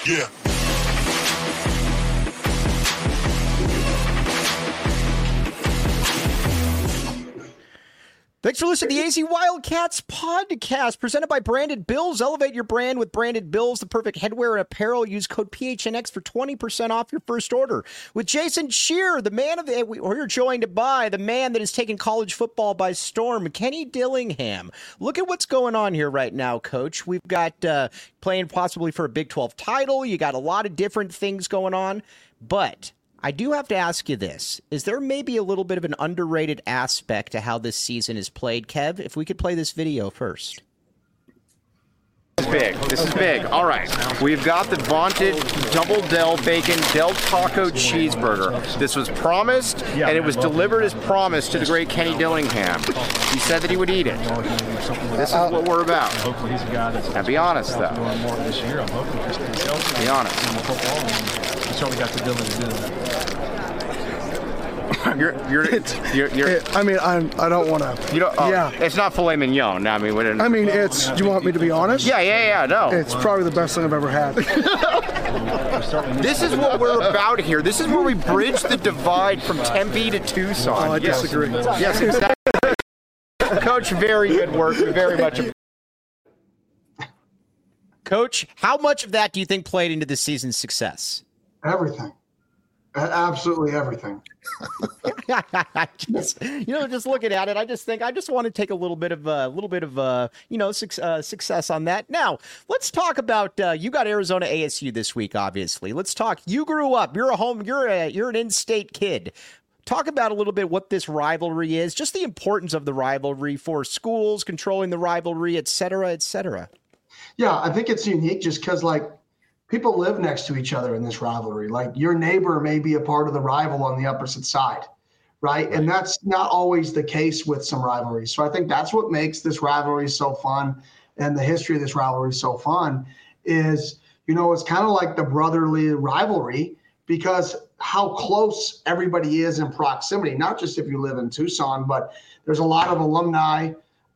Yeah. Thanks for listening to the AZ Wildcats podcast presented by Branded Bills. Elevate your brand with Branded Bills, the perfect headwear and apparel. Use code PHNX for 20% off your first order. With Jason Scheer, the man of the, we're joined by the man that has taken college football by storm, Kenny Dillingham. Look at what's going on here right now, Coach. We've got playing possibly for a Big 12 title. You got a lot of different things going on, but I do have to ask you this. Is there maybe a little bit of an underrated aspect to how this season is played, Kev? If we could play this video first. This is big. All right. We've got the vaunted double Del Bacon Del Taco cheeseburger. This was promised, and it was delivered as promised to the great Kenny Dillingham. He said that he would eat it. This is what we're about. Now, be honest, though. Be honest. Certainly got the ability to do that. I mean, I don't want to. You don't. Yeah. It's not filet mignon. I mean, it's. Do you want me to be honest? Yeah. No. It's probably the best thing I've ever had. This is what we're about here. This is where we bridge the divide from Tempe to Tucson. Oh, I disagree. Yes, exactly. Coach, very good work. We very much. Coach, how much of that do you think played into this season's success? Everything. Absolutely everything. just looking at it, I just want to take a little bit of success on that. Now, let's talk about you got Arizona ASU this week, obviously. Let's talk. You grew up. You're an in-state kid. Talk about a little bit what this rivalry is, just the importance of the rivalry for schools, controlling the rivalry, et cetera, et cetera. Yeah, I think it's unique just because, people live next to each other in this rivalry. Like, your neighbor may be a part of the rival on the opposite side, right? And that's not always the case with some rivalries. So I think that's what makes this rivalry so fun, and the history of this rivalry so fun is, it's kind of like the brotherly rivalry because how close everybody is in proximity, not just if you live in Tucson, but there's a lot of alumni,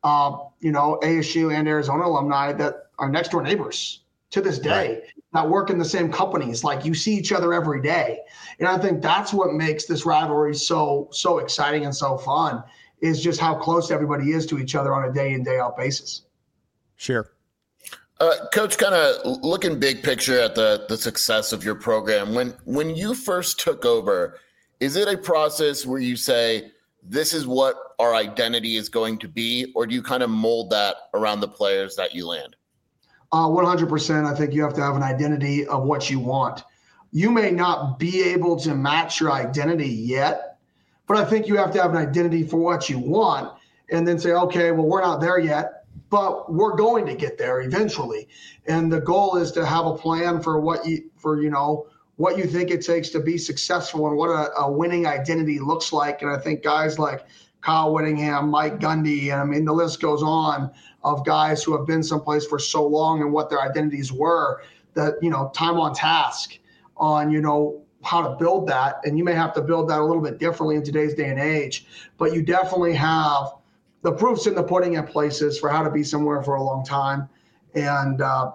ASU and Arizona alumni that are next door neighbors to this day, that work in the same companies. Like, you see each other every day. And I think that's what makes this rivalry so exciting and so fun, is just how close everybody is to each other on a day in, day out basis. Sure. Coach, kind of looking big picture at the success of your program, when you first took over, is it a process where you say, this is what our identity is going to be, or do you kind of mold that around the players that you land? 100%. I think you have to have an identity of what you want. You may not be able to match your identity yet, but I think you have to have an identity for what you want and then say, okay, well, we're not there yet, but we're going to get there eventually. And the goal is to have a plan for what you think it takes to be successful and what a winning identity looks like. And I think guys like Kyle Whittingham, Mike Gundy, and I mean, the list goes on of guys who have been someplace for so long and what their identities were, that, time on task on, how to build that. And you may have to build that a little bit differently in today's day and age, but you definitely have the proofs in the pudding at places for how to be somewhere for a long time. And I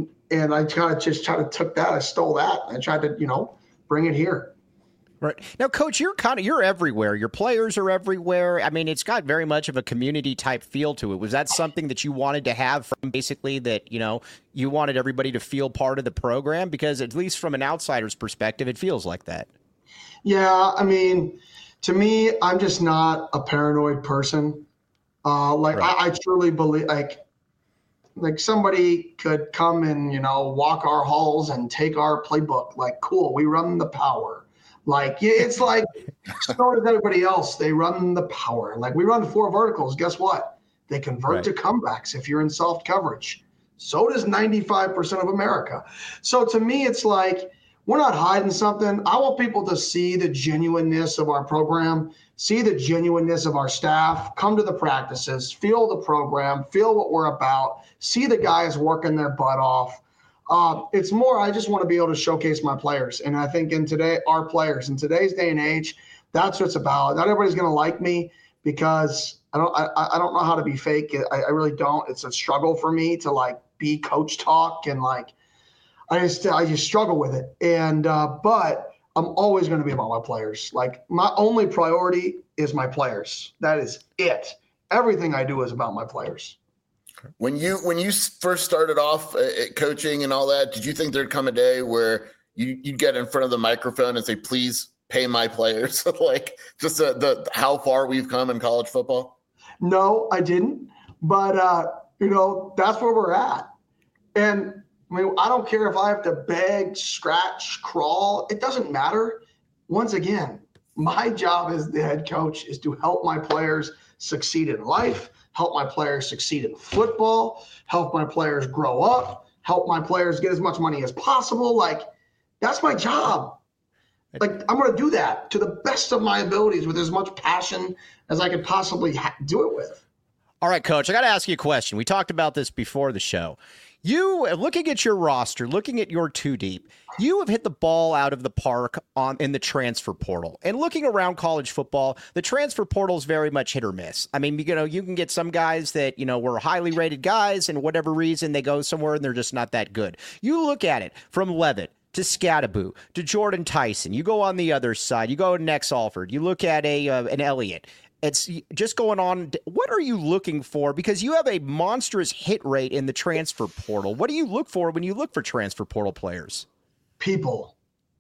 took that, I stole that. I tried to, bring it here. Right. Now, Coach, you're everywhere. Your players are everywhere. I mean, it's got very much of a community type feel to it. Was that something that you wanted to have from basically that, you wanted everybody to feel part of the program? Because at least from an outsider's perspective, it feels like that. Yeah. I mean, to me, I'm just not a paranoid person. Right. I truly believe like somebody could come and, walk our halls and take our playbook. Like, cool, we run the power. Like, it's like, so does everybody else. They run the power. Like, we run 4 verticals. Guess what? They convert to comebacks if you're in soft coverage. So does 95% of America. So to me, it's like, we're not hiding something. I want people to see the genuineness of our program, see the genuineness of our staff, come to the practices, feel the program, feel what we're about, see the guys working their butt off. It's more, I just want to be able to showcase my players. And I think our players in today's day and age, that's what it's about. Not everybody's going to like me because I don't know how to be fake. I really don't. It's a struggle for me to be coach talk. And I just struggle with it. And but I'm always going to be about my players. Like, my only priority is my players. That is it. Everything I do is about my players. When you first started off coaching and all that, did you think there'd come a day where you'd get in front of the microphone and say, please pay my players? Like, just the how far we've come in college football? No, I didn't. But, that's where we're at. And, I mean, I don't care if I have to beg, scratch, crawl. It doesn't matter. Once again, my job as the head coach is to help my players succeed in life, help my players succeed in football, help my players grow up, help my players get as much money as possible. Like, that's my job. Like, I'm going to do that to the best of my abilities with as much passion as I could possibly do it with. All right, Coach, I got to ask you a question. We talked about this before the show. You, looking at your roster, looking at your two deep, you have hit the ball out of the park in the transfer portal. And looking around college football, the transfer portal is very much hit or miss. I mean, you can get some guys that, were highly rated guys, and whatever reason they go somewhere and they're just not that good. You look at it from Leavitt to Scadaboo to Jordan Tyson. You go on the other side. You go to Nex Alford. You look at an Elliott. It's just going on. What are you looking for? Because you have a monstrous hit rate in the transfer portal. What do you look for when you look for transfer portal players? People,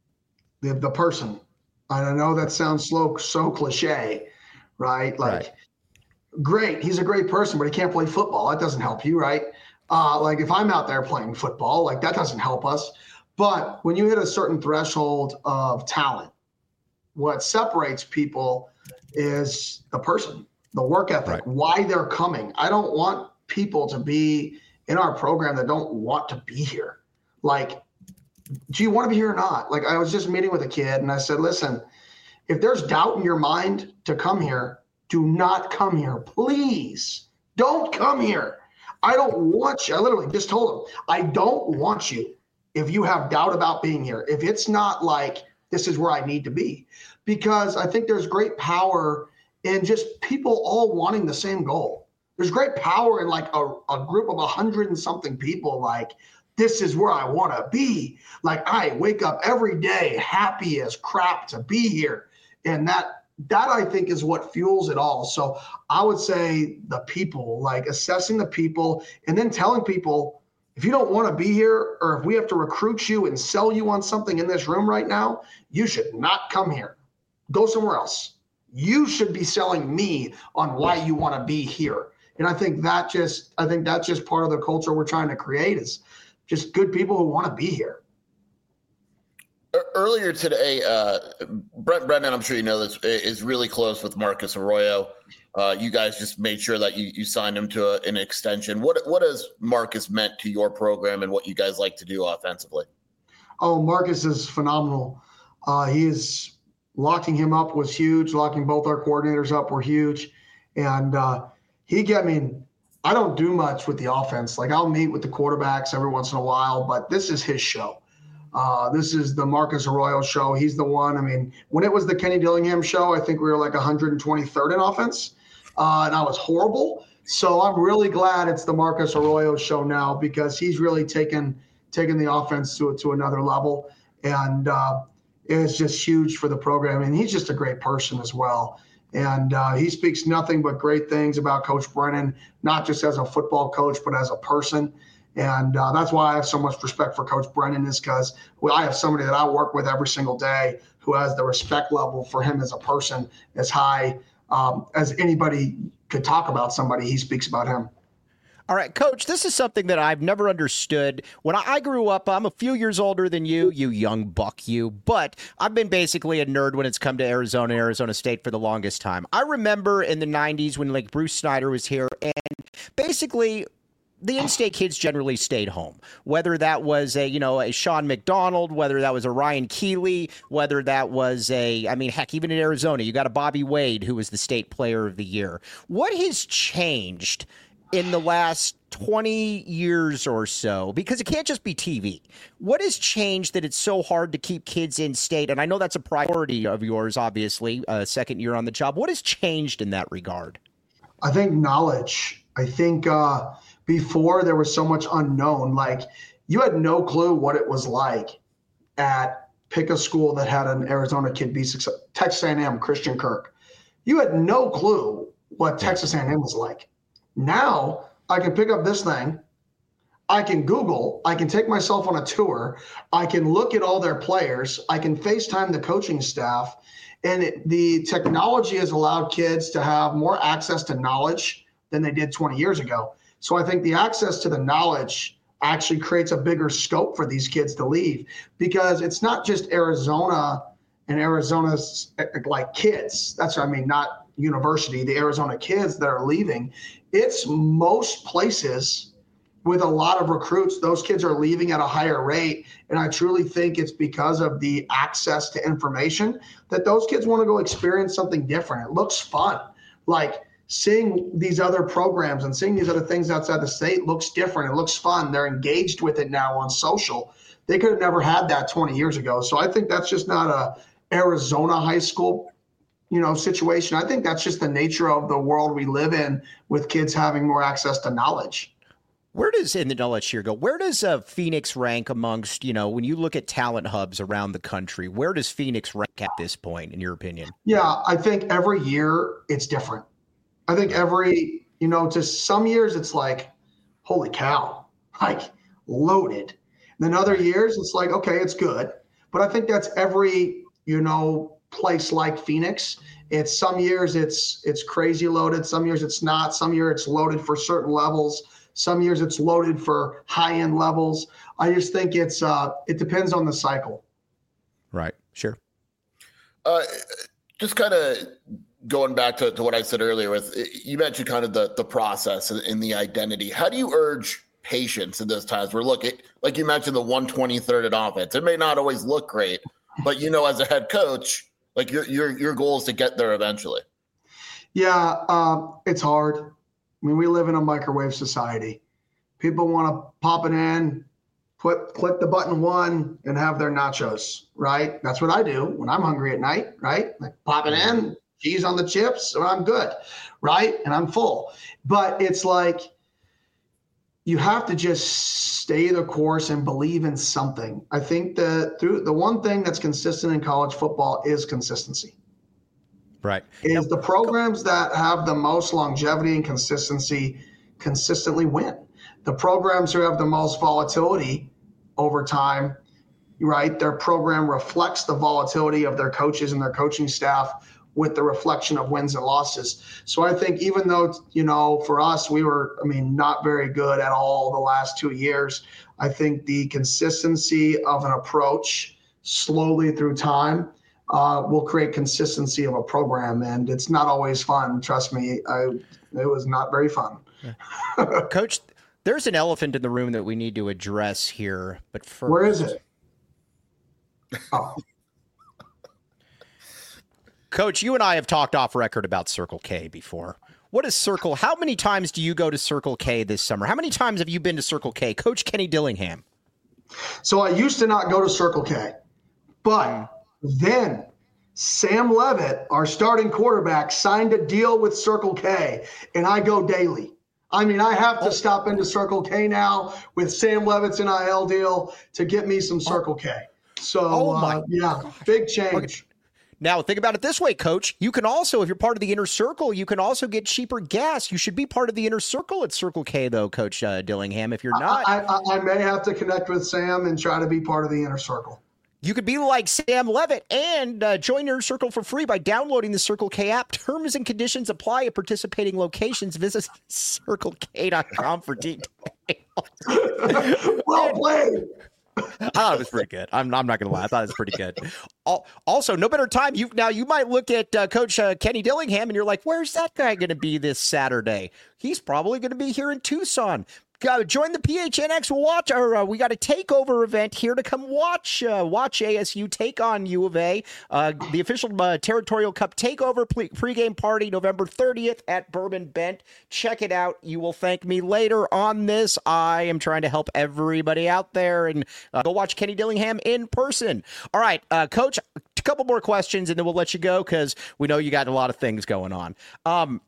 the person. I know that sounds so cliche, right? Like, Great. He's a great person, but he can't play football. That doesn't help you, right? Like, if I'm out there playing football, like, that doesn't help us. But when you hit a certain threshold of talent, what separates people is the person, the work ethic, why they're coming. I don't want people to be in our program that don't want to be here. Like, do you want to be here or not? Like, I was just meeting with a kid and I said, listen, if there's doubt in your mind to come here, do not come here. Please don't come here. I don't want you. I literally just told him, I don't want you if you have doubt about being here. If it's not like, this is where I need to be. Because I think there's great power in just people all wanting the same goal. There's great power in like a group of 100 and something people, like, this is where I want to be. Like, I wake up every day happy as crap to be here. And that I think is what fuels it all. So I would say the people, like assessing the people and then telling people, if you don't want to be here, or if we have to recruit you and sell you on something in this room right now, you should not come here. Go somewhere else. You should be selling me on why you want to be here. And I think that's just part of the culture we're trying to create, is just good people who want to be here. Earlier today, Brent Brennan, I'm sure you know this, is really close with Marcus Arroyo. You guys just made sure that you signed him to an extension. What has Marcus meant to your program and what you guys like to do offensively? Oh, Marcus is phenomenal. Locking him up was huge. Locking both our coordinators up were huge. And I don't do much with the offense. Like, I'll meet with the quarterbacks every once in a while, but this is his show. This is the Marcus Arroyo show. He's the one. I mean, when it was the Kenny Dillingham show, I think we were like 123rd in offense, and I was horrible. So I'm really glad it's the Marcus Arroyo show now, because he's really taken the offense to another level, and it's just huge for the program. And he's just a great person as well. And he speaks nothing but great things about Coach Brennan, not just as a football coach, but as a person. And that's why I have so much respect for Coach Brennan, is because I have somebody that I work with every single day who has the respect level for him as a person as high as anybody could talk about somebody. He speaks about him. All right, Coach, this is something that I've never understood. When I grew up, I'm a few years older than you young buck, but I've been basically a nerd when it's come to Arizona State for the longest time. I remember in the 90s when like Bruce Snyder was here, and basically the in-state kids generally stayed home, whether that was a Sean McDonald, whether that was a Ryan Keeley, whether that was even in Arizona, you got a Bobby Wade, who was the state player of the year. What has changed in the last 20 years or so? Because it can't just be TV. What has changed that it's so hard to keep kids in state? And I know that's a priority of yours, obviously, second year on the job. What has changed in that regard? I think knowledge. I think before there was so much unknown. Like, you had no clue what it was like at pick a school that had an Arizona kid be successful. Texas A&M, Christian Kirk. You had no clue what Texas A&M was like. Now I can pick up this thing. I can Google. I can take myself on a tour. I can look at all their players. I can FaceTime the coaching staff. And the technology has allowed kids to have more access to knowledge than they did 20 years ago. So I think the access to the knowledge actually creates a bigger scope for these kids to leave, because it's not just Arizona and Arizona's like kids. That's what I mean, not university, the Arizona kids that are leaving. It's most places with a lot of recruits. Those kids are leaving at a higher rate. And I truly think it's because of the access to information that those kids want to go experience something different. It looks fun. Like seeing these other programs and seeing these other things outside the state looks different. It looks fun. They're engaged with it now on social. They could have never had that 20 years ago. So I think that's just not a Arizona high school, situation. I think that's just the nature of the world we live in, with kids having more access to knowledge. Where does, and then I'll let you go, where does Phoenix rank amongst, when you look at talent hubs around the country, where does Phoenix rank at this point, in your opinion? Yeah, I think every year it's different. I think every, just some years it's like, holy cow, like loaded. And then other years it's like, okay, it's good. But I think that's every, place like Phoenix. It's some years it's crazy loaded. Some years it's not. Some years it's loaded for certain levels. Some years it's loaded for high-end levels. I just think it depends on the cycle. Right. Sure. Just kind of going back to what I said earlier with, you mentioned kind of the process and the identity. How do you urge patience in those times where, look, like you mentioned, the 123rd at offense, it may not always look great, but as a head coach, like your goal is to get there eventually. Yeah, it's hard. I mean, we live in a microwave society. People want to pop it in, click the button one, and have their nachos, right? That's what I do when I'm hungry at night, right? Like pop it in, cheese on the chips, and I'm good, right? And I'm full. But it's like you have to just stay the course and believe in something. I think the one thing that's consistent in college football is consistency. Right. Is the programs that have the most longevity and consistency consistently win. The programs who have the most volatility over time, right, their program reflects the volatility of their coaches and their coaching staff with the reflection of wins and losses. So I think even though, for us, we were, not very good at all the last 2 years, I think the consistency of an approach slowly through time will create consistency of a program. And it's not always fun. Trust me, it was not very fun. Coach, there's an elephant in the room that we need to address here. But first, where is it? Oh. Coach, you and I have talked off record about Circle K before. What is Circle? How many times do you go to Circle K this summer? How many times have you been to Circle K? Coach Kenny Dillingham. So I used to not go to Circle K, but then Sam Levitt, our starting quarterback, signed a deal with Circle K, and I go daily. I have to stop into Circle K now with Sam Levitt's NIL deal to get me some Circle K. So, big change. Okay. Now, think about it this way, Coach. You can also, if you're part of the Inner Circle, you can also get cheaper gas. You should be part of the Inner Circle at Circle K, though, Coach Dillingham, if you're not. I may have to connect with Sam and try to be part of the Inner Circle. You could be like Sam Levitt and join Inner Circle for free by downloading the Circle K app. Terms and conditions apply at participating locations. Visit CircleK.com for details. Well played. I thought it was pretty good. I'm not going to lie. I thought it was pretty good. Also, no better time. You might look at Coach Kenny Dillingham and you're like, where's that guy going to be this Saturday? He's probably going to be here in Tucson. Join the PHNX watch, or we got a takeover event here to come watch ASU take on U of A. The official Territorial Cup takeover pregame party November 30th at Bourbon Bent. Check it out. You will thank me later on this. I am trying to help everybody out there, and go watch Kenny Dillingham in person. All right, Coach, a couple more questions, and then we'll let you go because we know you got a lot of things going on.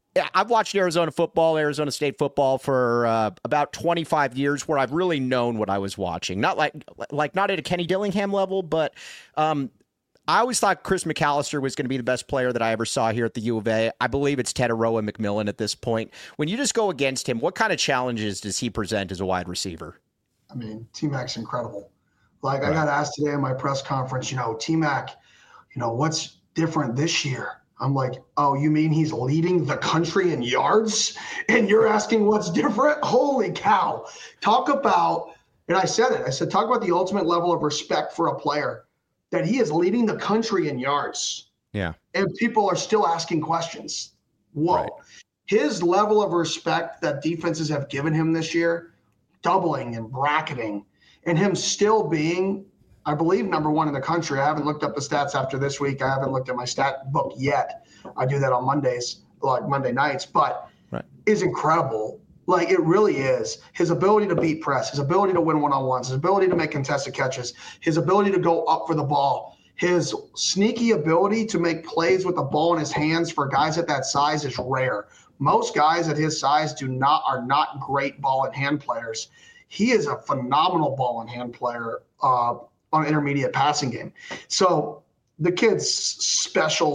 Yeah, I've watched Arizona State football for about 25 years, where I've really known what I was watching. Not not at a Kenny Dillingham level, but I always thought Chris McAllister was going to be the best player that I ever saw here at the U of A. I believe it's Tetairoa McMillan at this point. When you just go against him, what kind of challenges does he present as a wide receiver? I mean, T-Mac's incredible. Like, right. I got asked today in my press conference, T-Mac, what's different this year? I'm like, oh, you mean he's leading the country in yards? And you're asking what's different? Holy cow. Talk about, and I said it, talk about the ultimate level of respect for a player, that he is leading the country in yards. Yeah. And people are still asking questions. Whoa. Right. His level of respect that defenses have given him this year, doubling and bracketing, and him still being, I believe, number one in the country. I haven't looked up the stats after this week. I haven't looked at my stat book yet. I do that on Mondays, like Monday nights, but right. is incredible. Like, it really is. His ability to beat press, his ability to win one-on-ones, his ability to make contested catches, his ability to go up for the ball, his sneaky ability to make plays with the ball in his hands for guys at that size is rare. Most guys at his size are not great ball in hand players. He is a phenomenal ball in hand player on intermediate passing game. So the kid's special.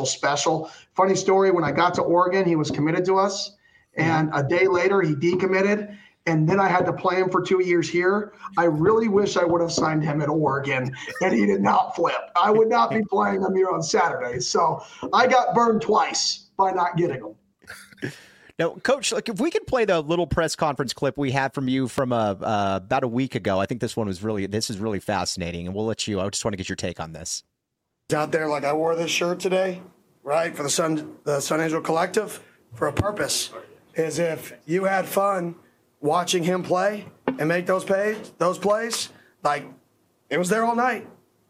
Funny story, when I got to Oregon, he was committed to us. And a day later, he decommitted. And then I had to play him for 2 years here. I really wish I would have signed him at Oregon, and he did not flip. I would not be playing him here on Saturday. So I got burned twice by not getting him. Now, Coach, if we could play the little press conference clip we had from you from about a week ago, I think this is really fascinating, and we'll let you. I just want to get your take on this. Out there, like, I wore this shirt today, right, for the Sun Angel Collective for a purpose. Is if you had fun watching him play and make those plays, like, it was there all night.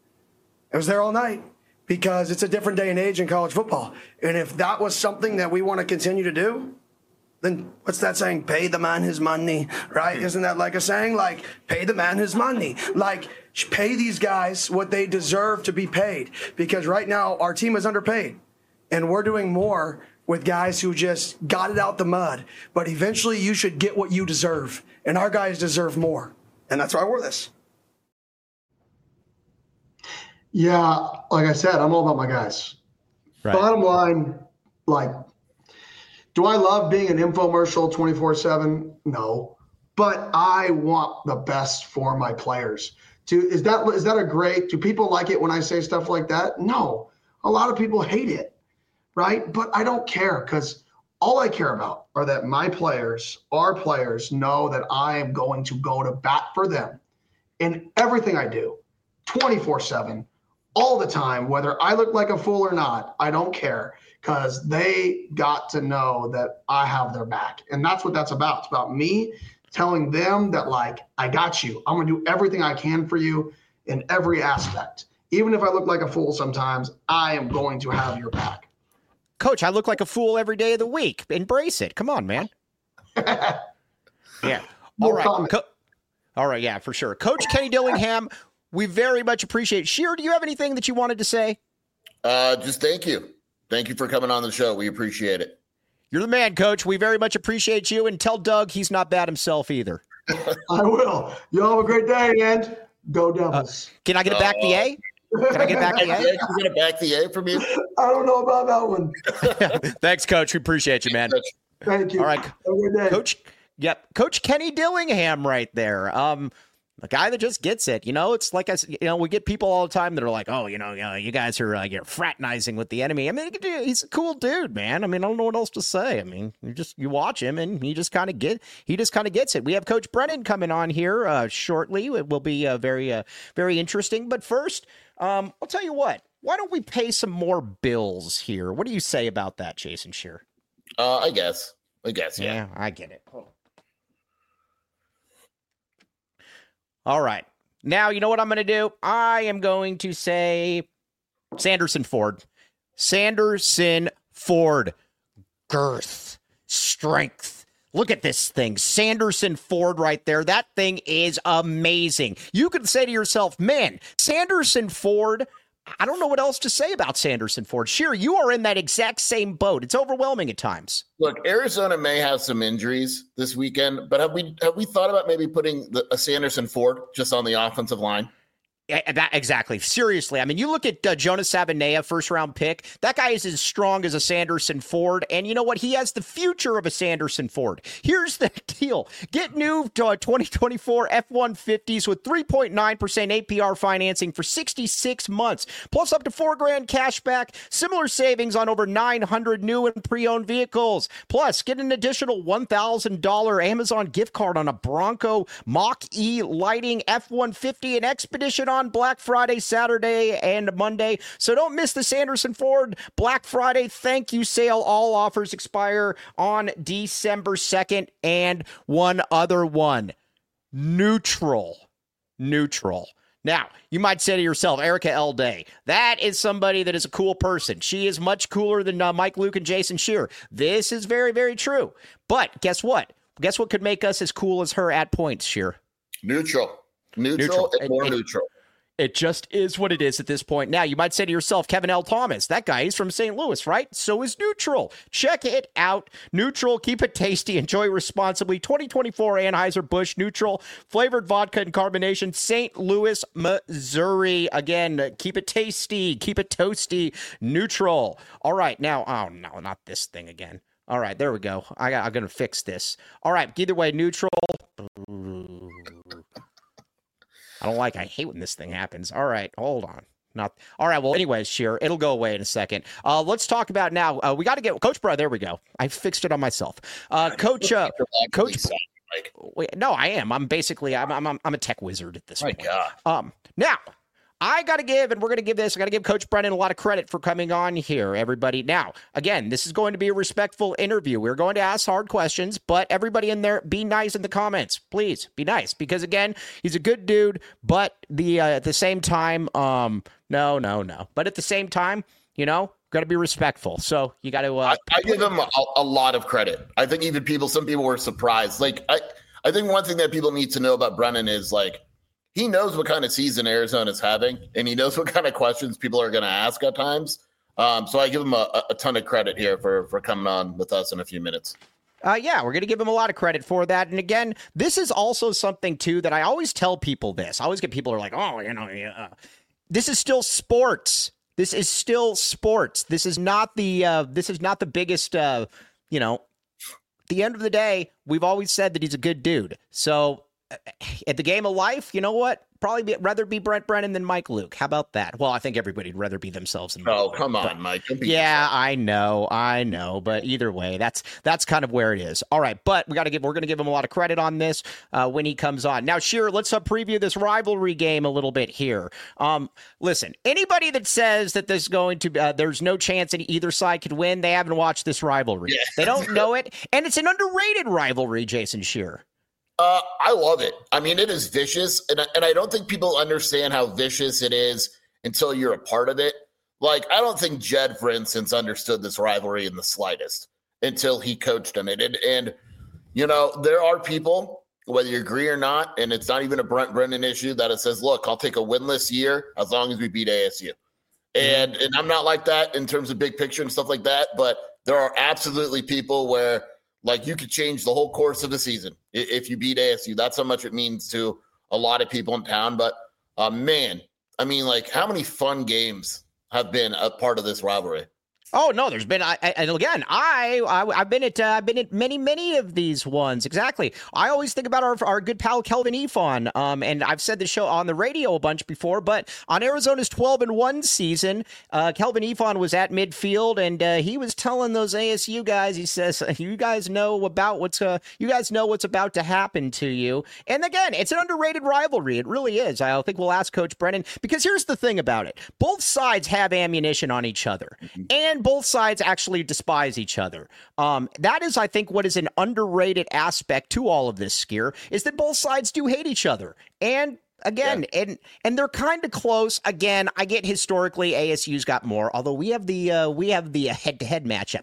It was there all night because it's a different day and age in college football. And if that was something that we want to continue to do, then what's that saying? Pay the man his money, right? Isn't that like a saying? Like, pay the man his money. Like, pay these guys what they deserve to be paid. Because right now, our team is underpaid. And we're doing more with guys who just got it out the mud. But eventually, you should get what you deserve. And our guys deserve more. And that's why I wore this. Yeah, like I said, I'm all about my guys. Right. Bottom line, like, do I love being an infomercial 24/7? No. But I want the best for my players. Is that a great – do people like it when I say stuff like that? No. A lot of people hate it, right? But I don't care, because all I care about are that my players, our players, know that I am going to go to bat for them in everything I do, 24/7, all the time, whether I look like a fool or not. I don't care, because they got to know that I have their back. And that's what that's about. It's about me telling them that, like, I got you. I'm going to do everything I can for you in every aspect. Even if I look like a fool sometimes, I am going to have your back. Coach, I look like a fool every day of the week. Embrace it. Come on, man. Yeah. All right. All right. Yeah, for sure. Coach Kenny Dillingham, we very much appreciate it. Sheer, do you have anything that you wanted to say? Just thank you. Thank you for coming on the show. We appreciate it. You're the man, Coach. We very much appreciate you. And tell Doug he's not bad himself either. I will. You all have a great day, and go Devils. Can I get a back the A? Can I get back the A? Can you get a back the A from you? I don't know about that one. Thanks, Coach. We appreciate you, man. Thank you. All right. Have a good day. Coach. Yep. Coach Kenny Dillingham right there. The guy that just gets it, it's like, we get people all the time that are like, oh, you guys are you're fraternizing with the enemy. I mean, he's a cool dude, man. I mean, I don't know what else to say. I mean, you watch him and he just kind of gets it. We have Coach Brennan coming on here shortly. It will be very, very interesting. But first, I'll tell you what, why don't we pay some more bills here? What do you say about that, Jason Scheer? I guess, yeah. Yeah, I get it. All right. Now, you know what I'm going to do? I am going to say Sanderson Ford. Sanderson Ford. Girth. Strength. Look at this thing. Sanderson Ford right there. That thing is amazing. You could say to yourself, man, Sanderson Ford, I don't know what else to say about Sanderson Ford. Sure, you are in that exact same boat. It's overwhelming at times. Look, Arizona may have some injuries this weekend, but have we thought about maybe putting a Sanderson Ford just on the offensive line? Yeah, exactly. Seriously. I mean, you look at Jonas Savaiinaea, first-round pick. That guy is as strong as a Sanderson Ford, and you know what? He has the future of a Sanderson Ford. Here's the deal. Get new 2024 F-150s with 3.9% APR financing for 66 months, plus up to $4,000 cash back, similar savings on over 900 new and pre-owned vehicles. Plus, get an additional $1,000 Amazon gift card on a Bronco Mach-E Lighting F-150 and Expedition on Black Friday, Saturday, and Monday. So don't miss the Sanderson Ford Black Friday thank you sale. All offers expire on December 2nd. And one other one, Neutral. Now, you might say to yourself, Erica L. Day, that is somebody that is a cool person. She is much cooler than Mike Luke and Jason Scheer. This is very, very true. But guess what? Guess what could make us as cool as her at points, Scheer? Neutral and more neutral. It just is what it is at this point. Now, you might say to yourself, Kevin L. Thomas, that guy is from St. Louis, right? So is Neutral. Check it out. Neutral, keep it tasty, enjoy responsibly. 2024 Anheuser-Busch Neutral, flavored vodka and carbonation, St. Louis, Missouri. Again, keep it tasty, keep it toasty, Neutral. All right, now, oh no, not this thing again. All right, there we go. I'm going to fix this. All right, either way, Neutral. I hate when this thing happens. All right, hold on. All right, well, anyways, Scheer, it'll go away in a second. Let's talk about now. We got to get Coach Bro. There we go. I fixed it on myself. Coach. Wait, no, I am. I'm basically I'm a tech wizard at this point. God. Now, I got to give, and we're going to give this, I got to give Coach Brennan a lot of credit for coming on here, everybody. Now, again, this is going to be a respectful interview. We're going to ask hard questions, but everybody in there, be nice in the comments. Please, be nice. Because, again, he's a good dude, but at the same time, no. But at the same time, got to be respectful. So you got to... I give him a lot of credit. I think even some people were surprised. Like, I think one thing that people need to know about Brennan is, like, he knows what kind of season Arizona's having, and he knows what kind of questions people are going to ask at times. So I give him a ton of credit here for coming on with us in a few minutes. Yeah, we're going to give him a lot of credit for that. And again, this is also something, too, that I always tell people this. I always get people who are like, this is still sports. This is still sports. This is not the biggest, at the end of the day, we've always said that he's a good dude. So at the game of life, you know what? Probably rather be Brent Brennan than Mike Luke. How about that? Well, I think everybody'd rather be themselves than Mike Luke. Come on, Mike. Yeah, I know. But either way, that's kind of where it is. All right, but we're going to give him a lot of credit on this when he comes on. Now, Scheer, let's preview this rivalry game a little bit here. Listen, anybody that says that there's no chance that either side could win, they haven't watched this rivalry. Yeah. They don't know it, and it's an underrated rivalry, Jason Scheer. I love it. I mean, it is vicious, and I don't think people understand how vicious it is until you're a part of it. Like, I don't think Jed, for instance, understood this rivalry in the slightest until he coached on it. And there are people, whether you agree or not, and it's not even a Brent Brennan issue, that it says, look, I'll take a winless year as long as we beat ASU. And I'm not like that in terms of big picture and stuff like that, but there are absolutely people where – like, you could change the whole course of the season if you beat ASU. That's how much it means to a lot of people in town. But, man, I mean, like, how many fun games have been a part of this rivalry? Oh no, there's been. And again, I've been at many of these ones. Exactly. I always think about our good pal Kelvin Ifon. And I've said the show on the radio a bunch before, but on Arizona's 12-1 season, Kelvin Ifon was at midfield, and he was telling those ASU guys. He says, "You guys know what's about to happen to you." And again, it's an underrated rivalry. It really is. I think we'll ask Coach Brennan, because here's the thing about it: both sides have ammunition on each other, and both sides actually despise each other. That is, I think, what is an underrated aspect to all of this, Scheer, is that both sides do hate each other. And again, and they're kind of close. Again, I get historically ASU's got more, although we have the head-to-head matchup.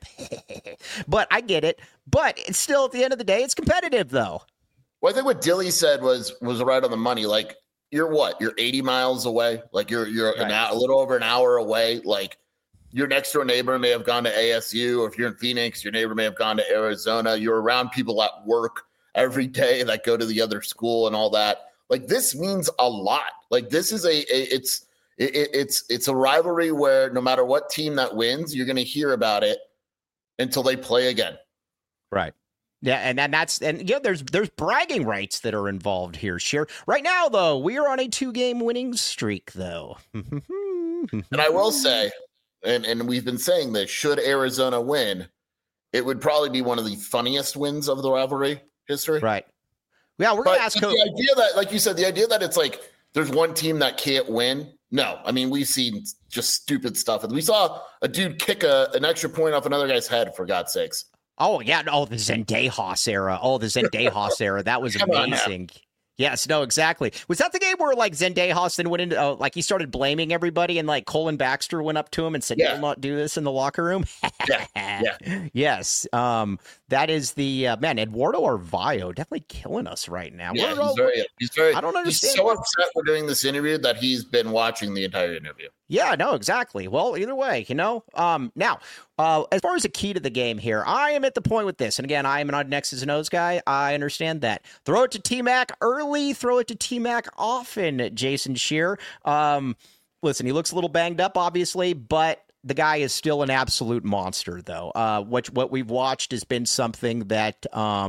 But I get it. But it's still, at the end of the day, it's competitive, though. Well, I think what Dilly said was right on the money. Like, you're what? You're 80 miles away. Like you're Right. a little over an hour away. Like your next door neighbor may have gone to ASU, or if you're in Phoenix, your neighbor may have gone to Arizona. You're around people at work every day that go to the other school and all that. Like this means a lot. Like this is it's a rivalry where no matter what team that wins, you're going to hear about it until they play again. Right. Yeah, and there's bragging rights that are involved here. Sure. Right now, though, we are on a 2-game winning streak, though. And I will say, and we've been saying this, should Arizona win, it would probably be one of the funniest wins of the rivalry history. Right. Yeah, we're going to ask the idea that, like you said, the idea that it's like there's one team that can't win. No, I mean, we've seen just stupid stuff. We saw a dude kick an extra point off another guy's head, for God's sakes. Oh, yeah. Oh, the Zendejas era. That was amazing. Yes, no, exactly. Was that the game where like Zendejas then went into like he started blaming everybody and like Colin Baxter went up to him and said, "You'll not do this in the locker room." Yeah. Yes. That is the man, Eduardo Arvayo, definitely killing us right now. Yeah, he's very. I don't understand. He's so upset we're doing this interview that he's been watching the entire interview. Yeah, no, exactly. Well, either way, now, as far as the key to the game here, I am at the point with this, and again, I am an X's and O's guy. I understand that. Throw it to T-Mac early, throw it to T-Mac often, Jason Scheer. Listen, he looks a little banged up, obviously, but the guy is still an absolute monster, though. What we've watched has been something that,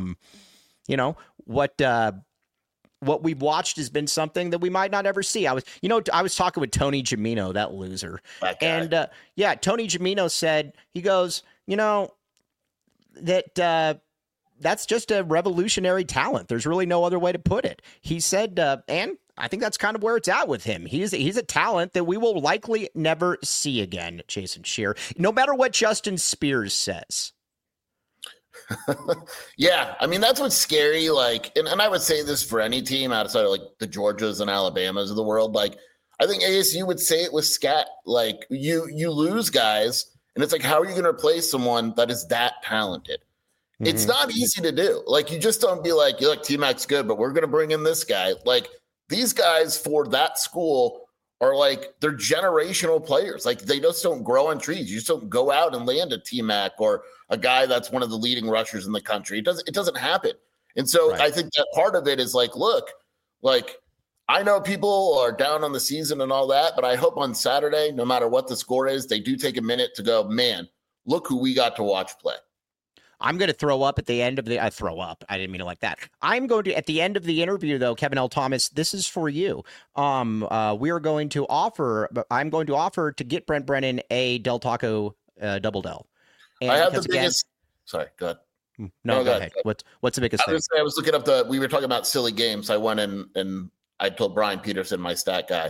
what we've watched has been something that we might not ever see. I was talking with Tony Gimino, that loser. And Tony Gimino said, he goes, that that's just a revolutionary talent. There's really no other way to put it. He said, and I think that's kind of where it's at with him. He's a talent that we will likely never see again, Jason Scheer, no matter what Justin Spears says. Yeah, I mean, that's what's scary. Like, and I would say this for any team outside of like the Georgias and Alabamas of the world. Like, I think ASU would say it with Scat. Like, you lose guys, and it's like, how are you going to replace someone that is that talented? Mm-hmm. It's not easy to do. Like, you just don't be like, T-Mac's good, but we're going to bring in this guy. Like, these guys for that school are like, they're generational players. Like, they just don't grow on trees. You just don't go out and land a T-Mac or a guy that's one of the leading rushers in the country. It doesn't happen. And so I think that part of it is like, look, like, I know people are down on the season and all that, but I hope on Saturday, no matter what the score is, they do take a minute to go, man, look who we got to watch play. I'm going to throw up at the end of the I didn't mean it like that. I'm going to, at the end of the interview, though, Kevin L. Thomas, this is for you. I'm going to offer to get Brent Brennan a Del Taco Double Del. And I have the biggest. Sorry, go ahead. No, go ahead. What's the biggest thing? I was looking up we were talking about silly games. I went in and I told Brian Peterson, my stat guy.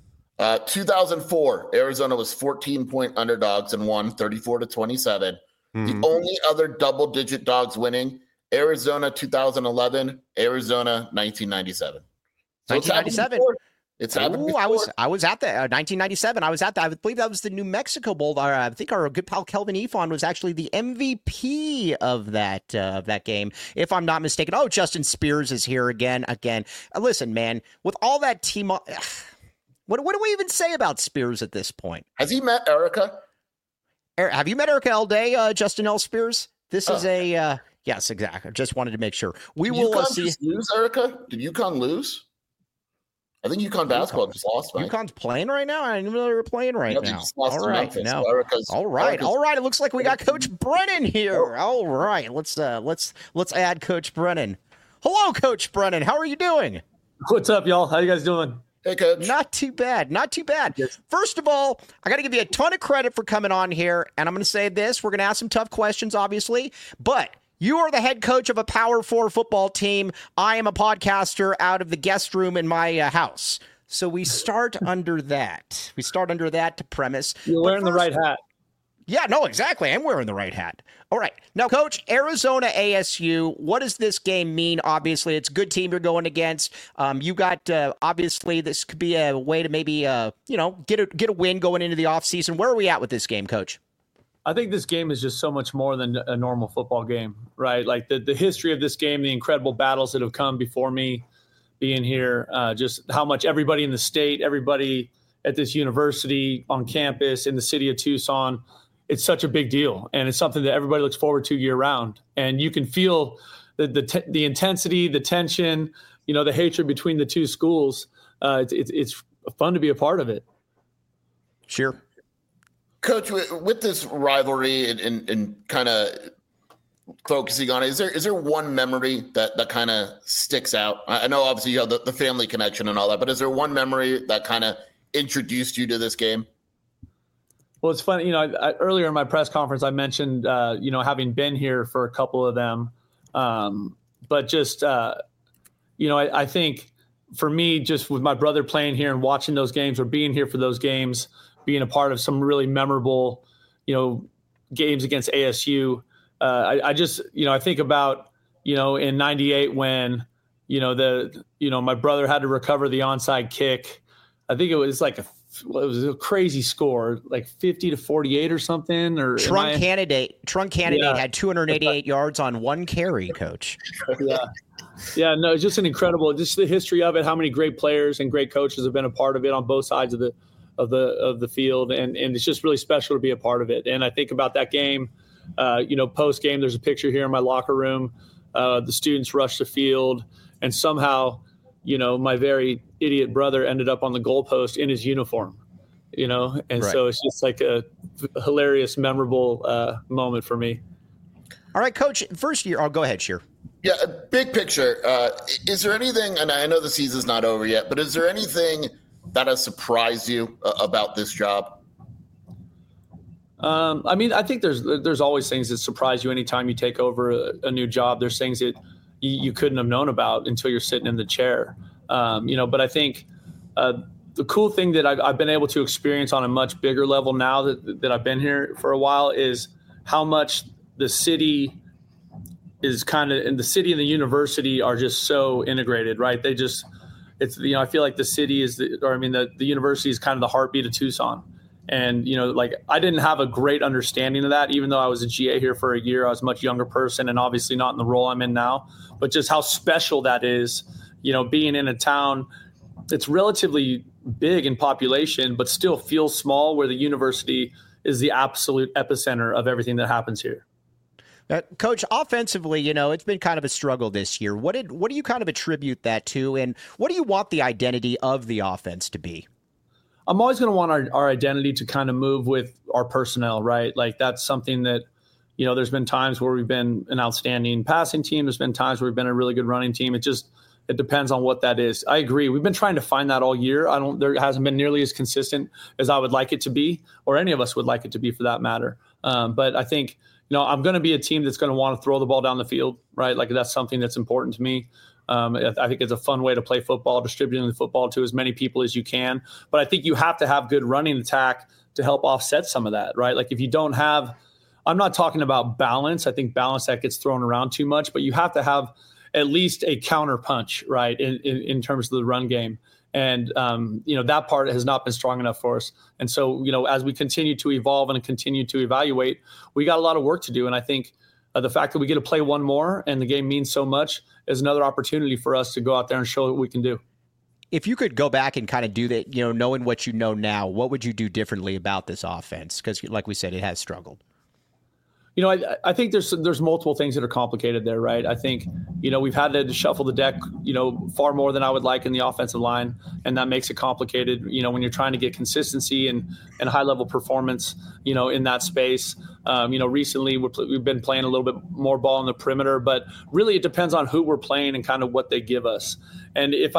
2004, Arizona was 14-point underdogs and won 34-27. The only other double-digit dogs winning, Arizona 2011, Arizona 1997. So 1997. It's happened before. I was at the 1997. I was at that. I believe that was the New Mexico Bowl. I think our good pal Kelvin Efon was actually the MVP of that game, if I'm not mistaken. Oh, Justin Spears is here again. Listen, man, with all that team, what do we even say about Spears at this point? Has he met Erica? Have you met Erica L. Day, Justin L. Spears? This is a yes, exactly. I just wanted to make sure. We will see. Lose, Erica? Did UConn lose? I think UConn basketball just lost, right? UConn's playing right now? I didn't even know they were playing right now. All right. No. All right. It looks like we got Coach Brennan here. All right. Let's add Coach Brennan. Hello, Coach Brennan. How are you doing? What's up, y'all? How you guys doing? Hey, Coach. Not too bad. Yes. First of all, I got to give you a ton of credit for coming on here. And I'm going to say this. We're going to ask some tough questions, obviously. But you are the head coach of a Power 4 football team. I am a podcaster out of the guest room in my house. So we start under that. To premise. You're wearing the right hat. Yeah, no, exactly. I'm wearing the right hat. All right. Now, Coach, Arizona ASU, what does this game mean? Obviously, it's a good team you're going against. You got, obviously, this could be a way to maybe, get a win going into the offseason. Where are we at with this game, Coach? I think this game is just so much more than a normal football game, right? Like the history of this game, the incredible battles that have come before me, being here, just how much everybody in the state, everybody at this university, on campus, in the city of Tucson, it's such a big deal. And it's something that everybody looks forward to year round. And you can feel the intensity, the tension, the hatred between the two schools. It's fun to be a part of it. Sure. Coach, with this rivalry and kind of focusing on it, is there one memory that kind of sticks out? I know obviously you have the family connection and all that, but is there one memory that kind of introduced you to this game? Well, it's funny, earlier in my press conference, I mentioned, having been here for a couple of them. But just, I think for me, just with my brother playing here and watching those games or being here for those games, being a part of some really memorable, games against ASU, I think about, in 98 when, my brother had to recover the onside kick. I think it was it was a crazy score, like 50-48 or something. Or Trunk Candidate had 288 yards on one carry, Coach. Yeah, no, it's just an incredible, just the history of it, how many great players and great coaches have been a part of it on both sides of the field. And it's just really special to be a part of it. And I think about that game, post game, there's a picture here in my locker room. The students rushed the field and somehow, my very idiot brother ended up on the goalpost in his uniform, and right. So it's just like a hilarious, memorable moment for me. All right, Coach, first year, go ahead, Sheer. Yeah, big picture. Is there anything, and I know the season's not over yet, but is there anything that has surprised you about this job? I think there's always things that surprise you anytime you take over a new job. There's things that you couldn't have known about until you're sitting in the chair. But I think the cool thing that I've been able to experience on a much bigger level now that I've been here for a while is how much the city is and the city and the university are just so integrated, right? I feel like the city the university is kind of the heartbeat of Tucson. And, I didn't have a great understanding of that, even though I was a GA here for a year. I was a much younger person and obviously not in the role I'm in now, but just how special that is, being in a town that's relatively big in population, but still feels small, where the university is the absolute epicenter of everything that happens here. Coach, offensively, it's been kind of a struggle this year. What do you kind of attribute that to? And what do you want the identity of the offense to be? I'm always going to want our identity to kind of move with our personnel, right? Like that's something that, there's been times where we've been an outstanding passing team. There's been times where we've been a really good running team. It depends on what that is. I agree. We've been trying to find that all year. There hasn't been nearly as consistent as I would like it to be, or any of us would like it to be for that matter. But I think, I'm going to be a team that's going to want to throw the ball down the field, right? Like that's something that's important to me. I think it's a fun way to play football, distributing the football to as many people as you can. But I think you have to have good running attack to help offset some of that, right? Like if you don't have, I'm not talking about balance. I think balance that gets thrown around too much, but you have to have at least a counter punch, right, in terms of the run game. And, that part has not been strong enough for us. And so, as we continue to evolve and continue to evaluate, we got a lot of work to do. And I think the fact that we get to play one more and the game means so much is another opportunity for us to go out there and show what we can do. If you could go back and kind of do that, knowing what you know now, what would you do differently about this offense? Because like we said, it has struggled. I think there's multiple things that are complicated there, right? I think, we've had to shuffle the deck, far more than I would like in the offensive line, and that makes it complicated, when you're trying to get consistency and high-level performance, in that space. Recently we've been playing a little bit more ball on the perimeter, but really it depends on who we're playing and kind of what they give us. And if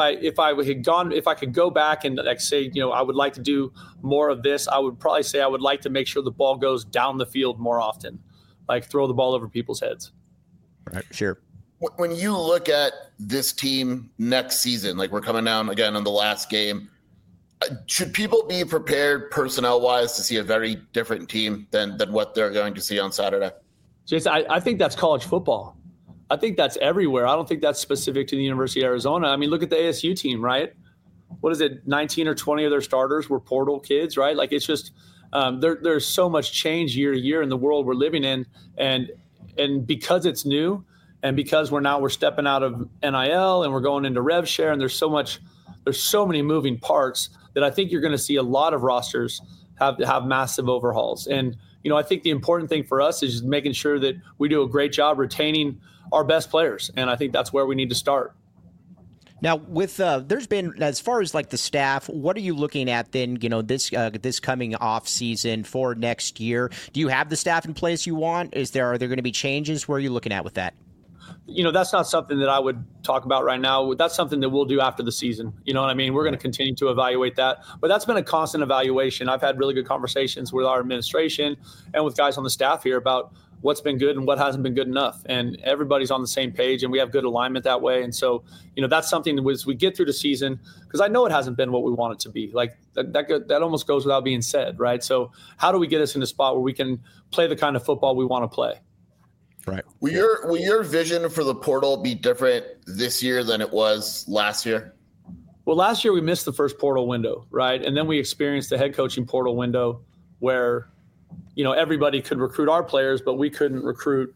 I could go back and say, I would like to do more of this, I would probably say I would like to make sure the ball goes down the field more often. Like throw the ball over people's heads. Right, sure. When you look at this team next season, like we're coming down again on the last game, should people be prepared personnel-wise to see a very different team than what they're going to see on Saturday? Jason, I think that's college football. I think that's everywhere. I don't think that's specific to the University of Arizona. I mean, look at the ASU team, right? What is it, 19 or 20 of their starters were portal kids, right? Like it's just – there's so much change year to year in the world we're living in, and because it's new, And because we're stepping out of NIL and we're going into rev share, and there's so many moving parts that I think you're going to see a lot of rosters have massive overhauls. And, I think the important thing for us is just making sure that we do a great job retaining our best players. And I think that's where we need to start. Now, with there's been, as far as like the staff, what are you looking at then, this coming off season for next year? Do you have the staff in place you want? Are there going to be changes? Where are you looking at with that? That's not something that I would talk about right now. That's something that we'll do after the season. You know what I mean? We're going to continue to evaluate that. But that's been a constant evaluation. I've had really good conversations with our administration and with guys on the staff here about what's been good and what hasn't been good enough. And everybody's on the same page, and we have good alignment that way. And so, that's something that as we get through the season, because I know it hasn't been what we want it to be. Like that almost goes without being said, right? So how do we get us in a spot where we can play the kind of football we want to play? Right. Will your vision for the portal be different this year than it was last year? Well, last year we missed the first portal window, right? And then we experienced the head coaching portal window where, everybody could recruit our players, but we couldn't recruit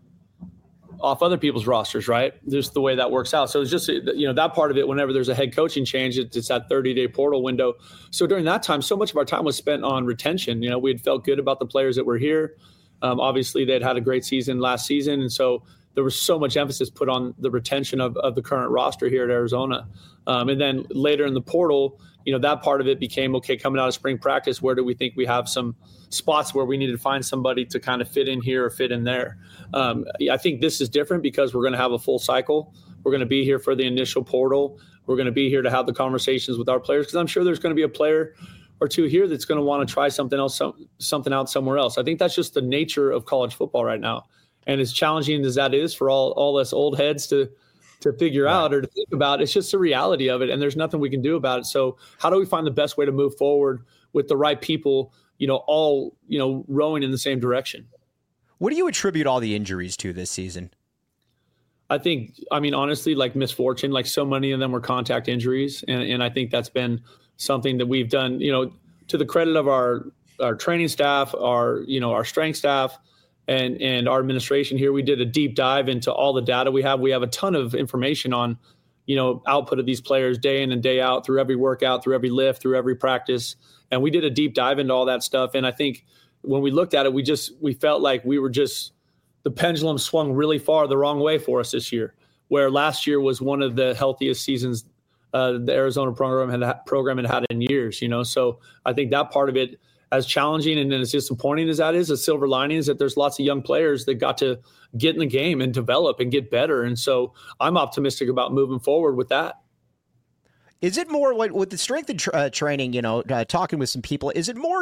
off other people's rosters, right? Just the way that works out. So it's just, that part of it, whenever there's a head coaching change, it's that 30-day portal window. So during that time, so much of our time was spent on retention. We had felt good about the players that were here. Obviously, they'd had a great season last season, and so there was so much emphasis put on the retention of the current roster here at Arizona. And then later in the portal, that part of it became, okay, coming out of spring practice, where do we think we have some spots where we need to find somebody to kind of fit in here or fit in there? I think this is different because we're going to have a full cycle. We're going to be here for the initial portal. We're going to be here to have the conversations with our players, because I'm sure there's going to be a player or two here that's going to want to try something out somewhere else. I think that's just the nature of college football right now. And as challenging as that is for all us old heads to figure out or to think about, it's just the reality of it. And there's nothing we can do about it. So how do we find the best way to move forward with the right people, all, rowing in the same direction? What do you attribute all the injuries to this season? Honestly, like misfortune, like so many of them were contact injuries. And I think that's been something that we've done, to the credit of our training staff, our strength staff, and our administration here. We did a deep dive into all the data we have. We have a ton of information on, output of these players day in and day out, through every workout, through every lift, through every practice. And we did a deep dive into all that stuff. And I think when we looked at it, we felt like the pendulum swung really far the wrong way for us this year, where last year was one of the healthiest seasons the Arizona program had in years, So I think that part of it, as challenging and as disappointing as that is, a silver lining is that there's lots of young players that got to get in the game and develop and get better. And so I'm optimistic about moving forward with that. Is it more like with the strength and training, talking with some people, is there more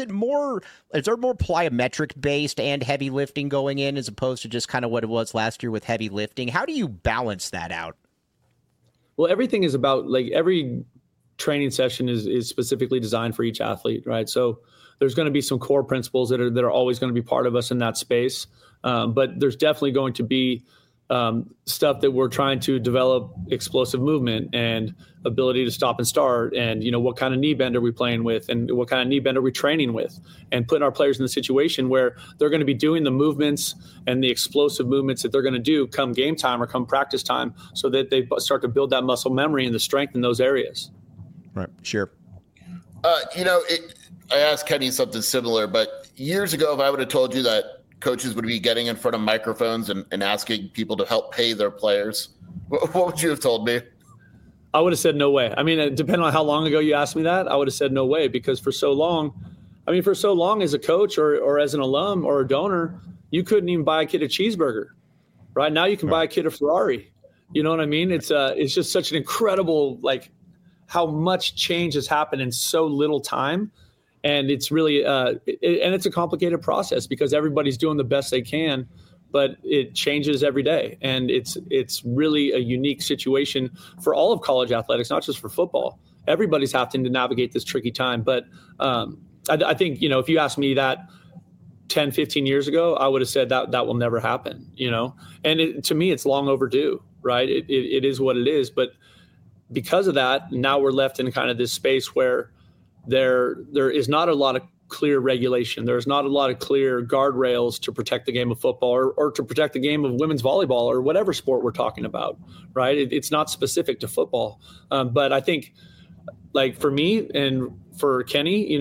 plyometric based and heavy lifting going in as opposed to just kind of what it was last year with heavy lifting? How do you balance that out? Well, everything is about, like, every training session is specifically designed for each athlete, right? So there's going to be some core principles that are always going to be part of us in that space. But there's definitely going to be stuff that we're trying to develop: explosive movement and ability to stop and start, and what kind of knee bend are we playing with, and what kind of knee bend are we training with, and putting our players in the situation where they're going to be doing the movements and the explosive movements that they're going to do come game time or come practice time, so that they start to build that muscle memory and the strength in those areas. Right. Sure. I asked Kenny something similar, but years ago, if I would have told you that coaches would be getting in front of microphones and asking people to help pay their players, what would you have told me? I would have said no way. Depending on how long ago you asked me that, I would have said no way, because for so long as a coach or as an alum or a donor, you couldn't even buy a kid a cheeseburger. Right now you can buy a kid a Ferrari. You know what I mean? It's just such an incredible, how much change has happened in so little time. And it's really and it's a complicated process because everybody's doing the best they can, but it changes every day. And it's really a unique situation for all of college athletics, not just for football. Everybody's having to navigate this tricky time. But I think, if you asked me that 10, 15 years ago, I would have said that will never happen, And to me, it's long overdue, right? It is what it is. But because of that, now we're left in kind of this space where there is not a lot of clear regulation. There's not a lot of clear guardrails to protect the game of football or to protect the game of women's volleyball or whatever sport we're talking about, right? It's not specific to football. But I think, like, for me and for Kenny,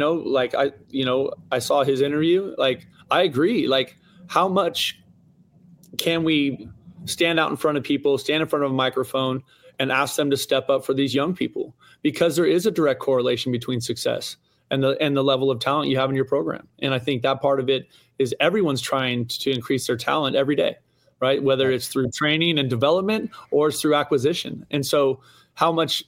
I saw his interview. Like, I agree. Like, how much can we stand out in front of people, stand in front of a microphone, and ask them to step up for these young people? Because there is a direct correlation between success and the level of talent you have in your program. And I think that part of it is everyone's trying to increase their talent every day, right? Whether it's through training and development or it's through acquisition. And so how much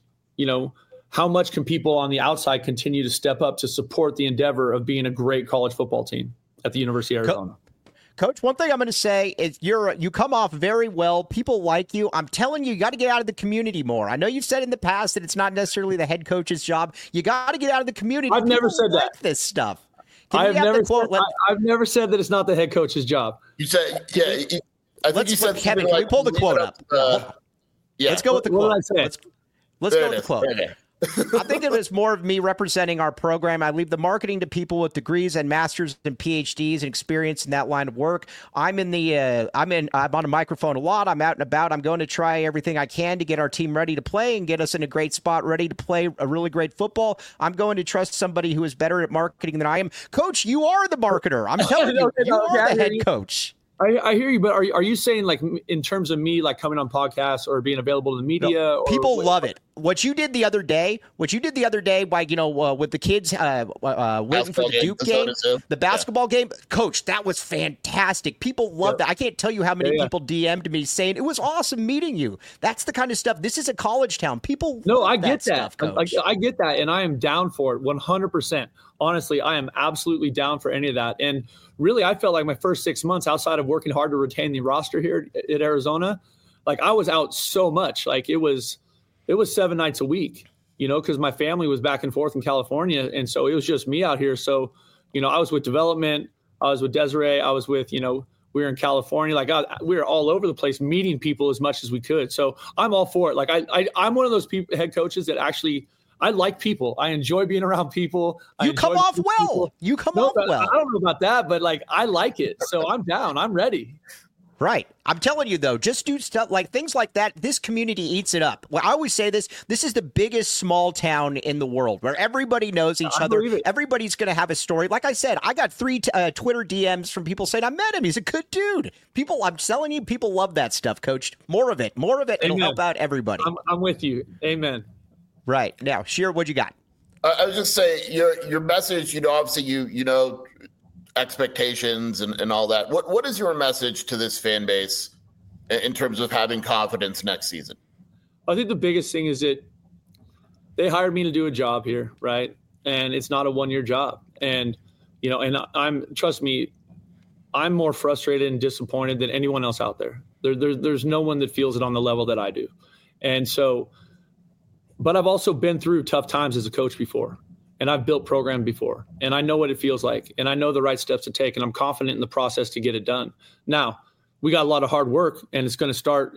can people on the outside continue to step up to support the endeavor of being a great college football team at the University of Arizona? Coach, one thing I'm going to say is you come off very well. People like you. I'm telling you, you got to get out of the community more. I know you've said in the past that it's not necessarily the head coach's job. You got to get out of the community. I've never said like that. This stuff. I've never said that it's not the head coach's job. You said, yeah. I think you said, Kevin, can we pull the quote up? Yeah. Let's go with the quote. Let's go with the quote. I think it was more of me representing our program. I leave the marketing to people with degrees and masters and PhDs and experience in that line of work. I'm on a microphone a lot. I'm out and about. I'm going to try everything I can to get our team ready to play and get us in a great spot, ready to play a really great football. I'm going to trust somebody who is better at marketing than I am. Coach, you are the marketer. I'm telling you, you are the head coach. I hear you, but are you saying, like, in terms of me, like, coming on podcasts or being available to the media? No, people love it. What you did the other day by, with the kids waiting for the Duke game, the basketball game, Coach, that was fantastic. People love that. I can't tell you how many people DM'd me saying it was awesome meeting you. That's the kind of stuff. This is a college town. People love I get that. Stuff, Coach. I get that, and I am down for it 100%. Honestly, I am absolutely down for any of that. And really, I felt like my first 6 months, outside of working hard to retain the roster here at Arizona, like, I was out so much. Like, it was 7 nights a week, because my family was back and forth in California. And so it was just me out here. So, I was with development. I was with Desiree. I was with, we were in California. Like, we were all over the place meeting people as much as we could. So I'm all for it. Like, I'm one of those head coaches that actually – I like people. I enjoy being around people. You come off well. You come off well. I don't know about that, but, like, I like it. So I'm down. I'm ready. Right. I'm telling you, though, just do stuff like things like that. This community eats it up. Well, I always say this is the biggest small town in the world where everybody knows each other. Everybody's going to have a story. Like I said, I got 3 Twitter DMs from people saying, I met him. He's a good dude. I'm telling you, people love that stuff, Coach. More of it. It'll help out everybody. I'm with you. Amen. Right. Now, Sheer, what you got? I was just saying your message, obviously you expectations and all that. What is your message to this fan base in terms of having confidence next season? I think the biggest thing is that they hired me to do a job here, right? And it's not a 1-year job. And, trust me, I'm more frustrated and disappointed than anyone else out there. There's no one that feels it on the level that I do. And so, but I've also been through tough times as a coach before, and I've built programs before, and I know what it feels like, and I know the right steps to take, and I'm confident in the process to get it done. Now, we got a lot of hard work, and it's going to start,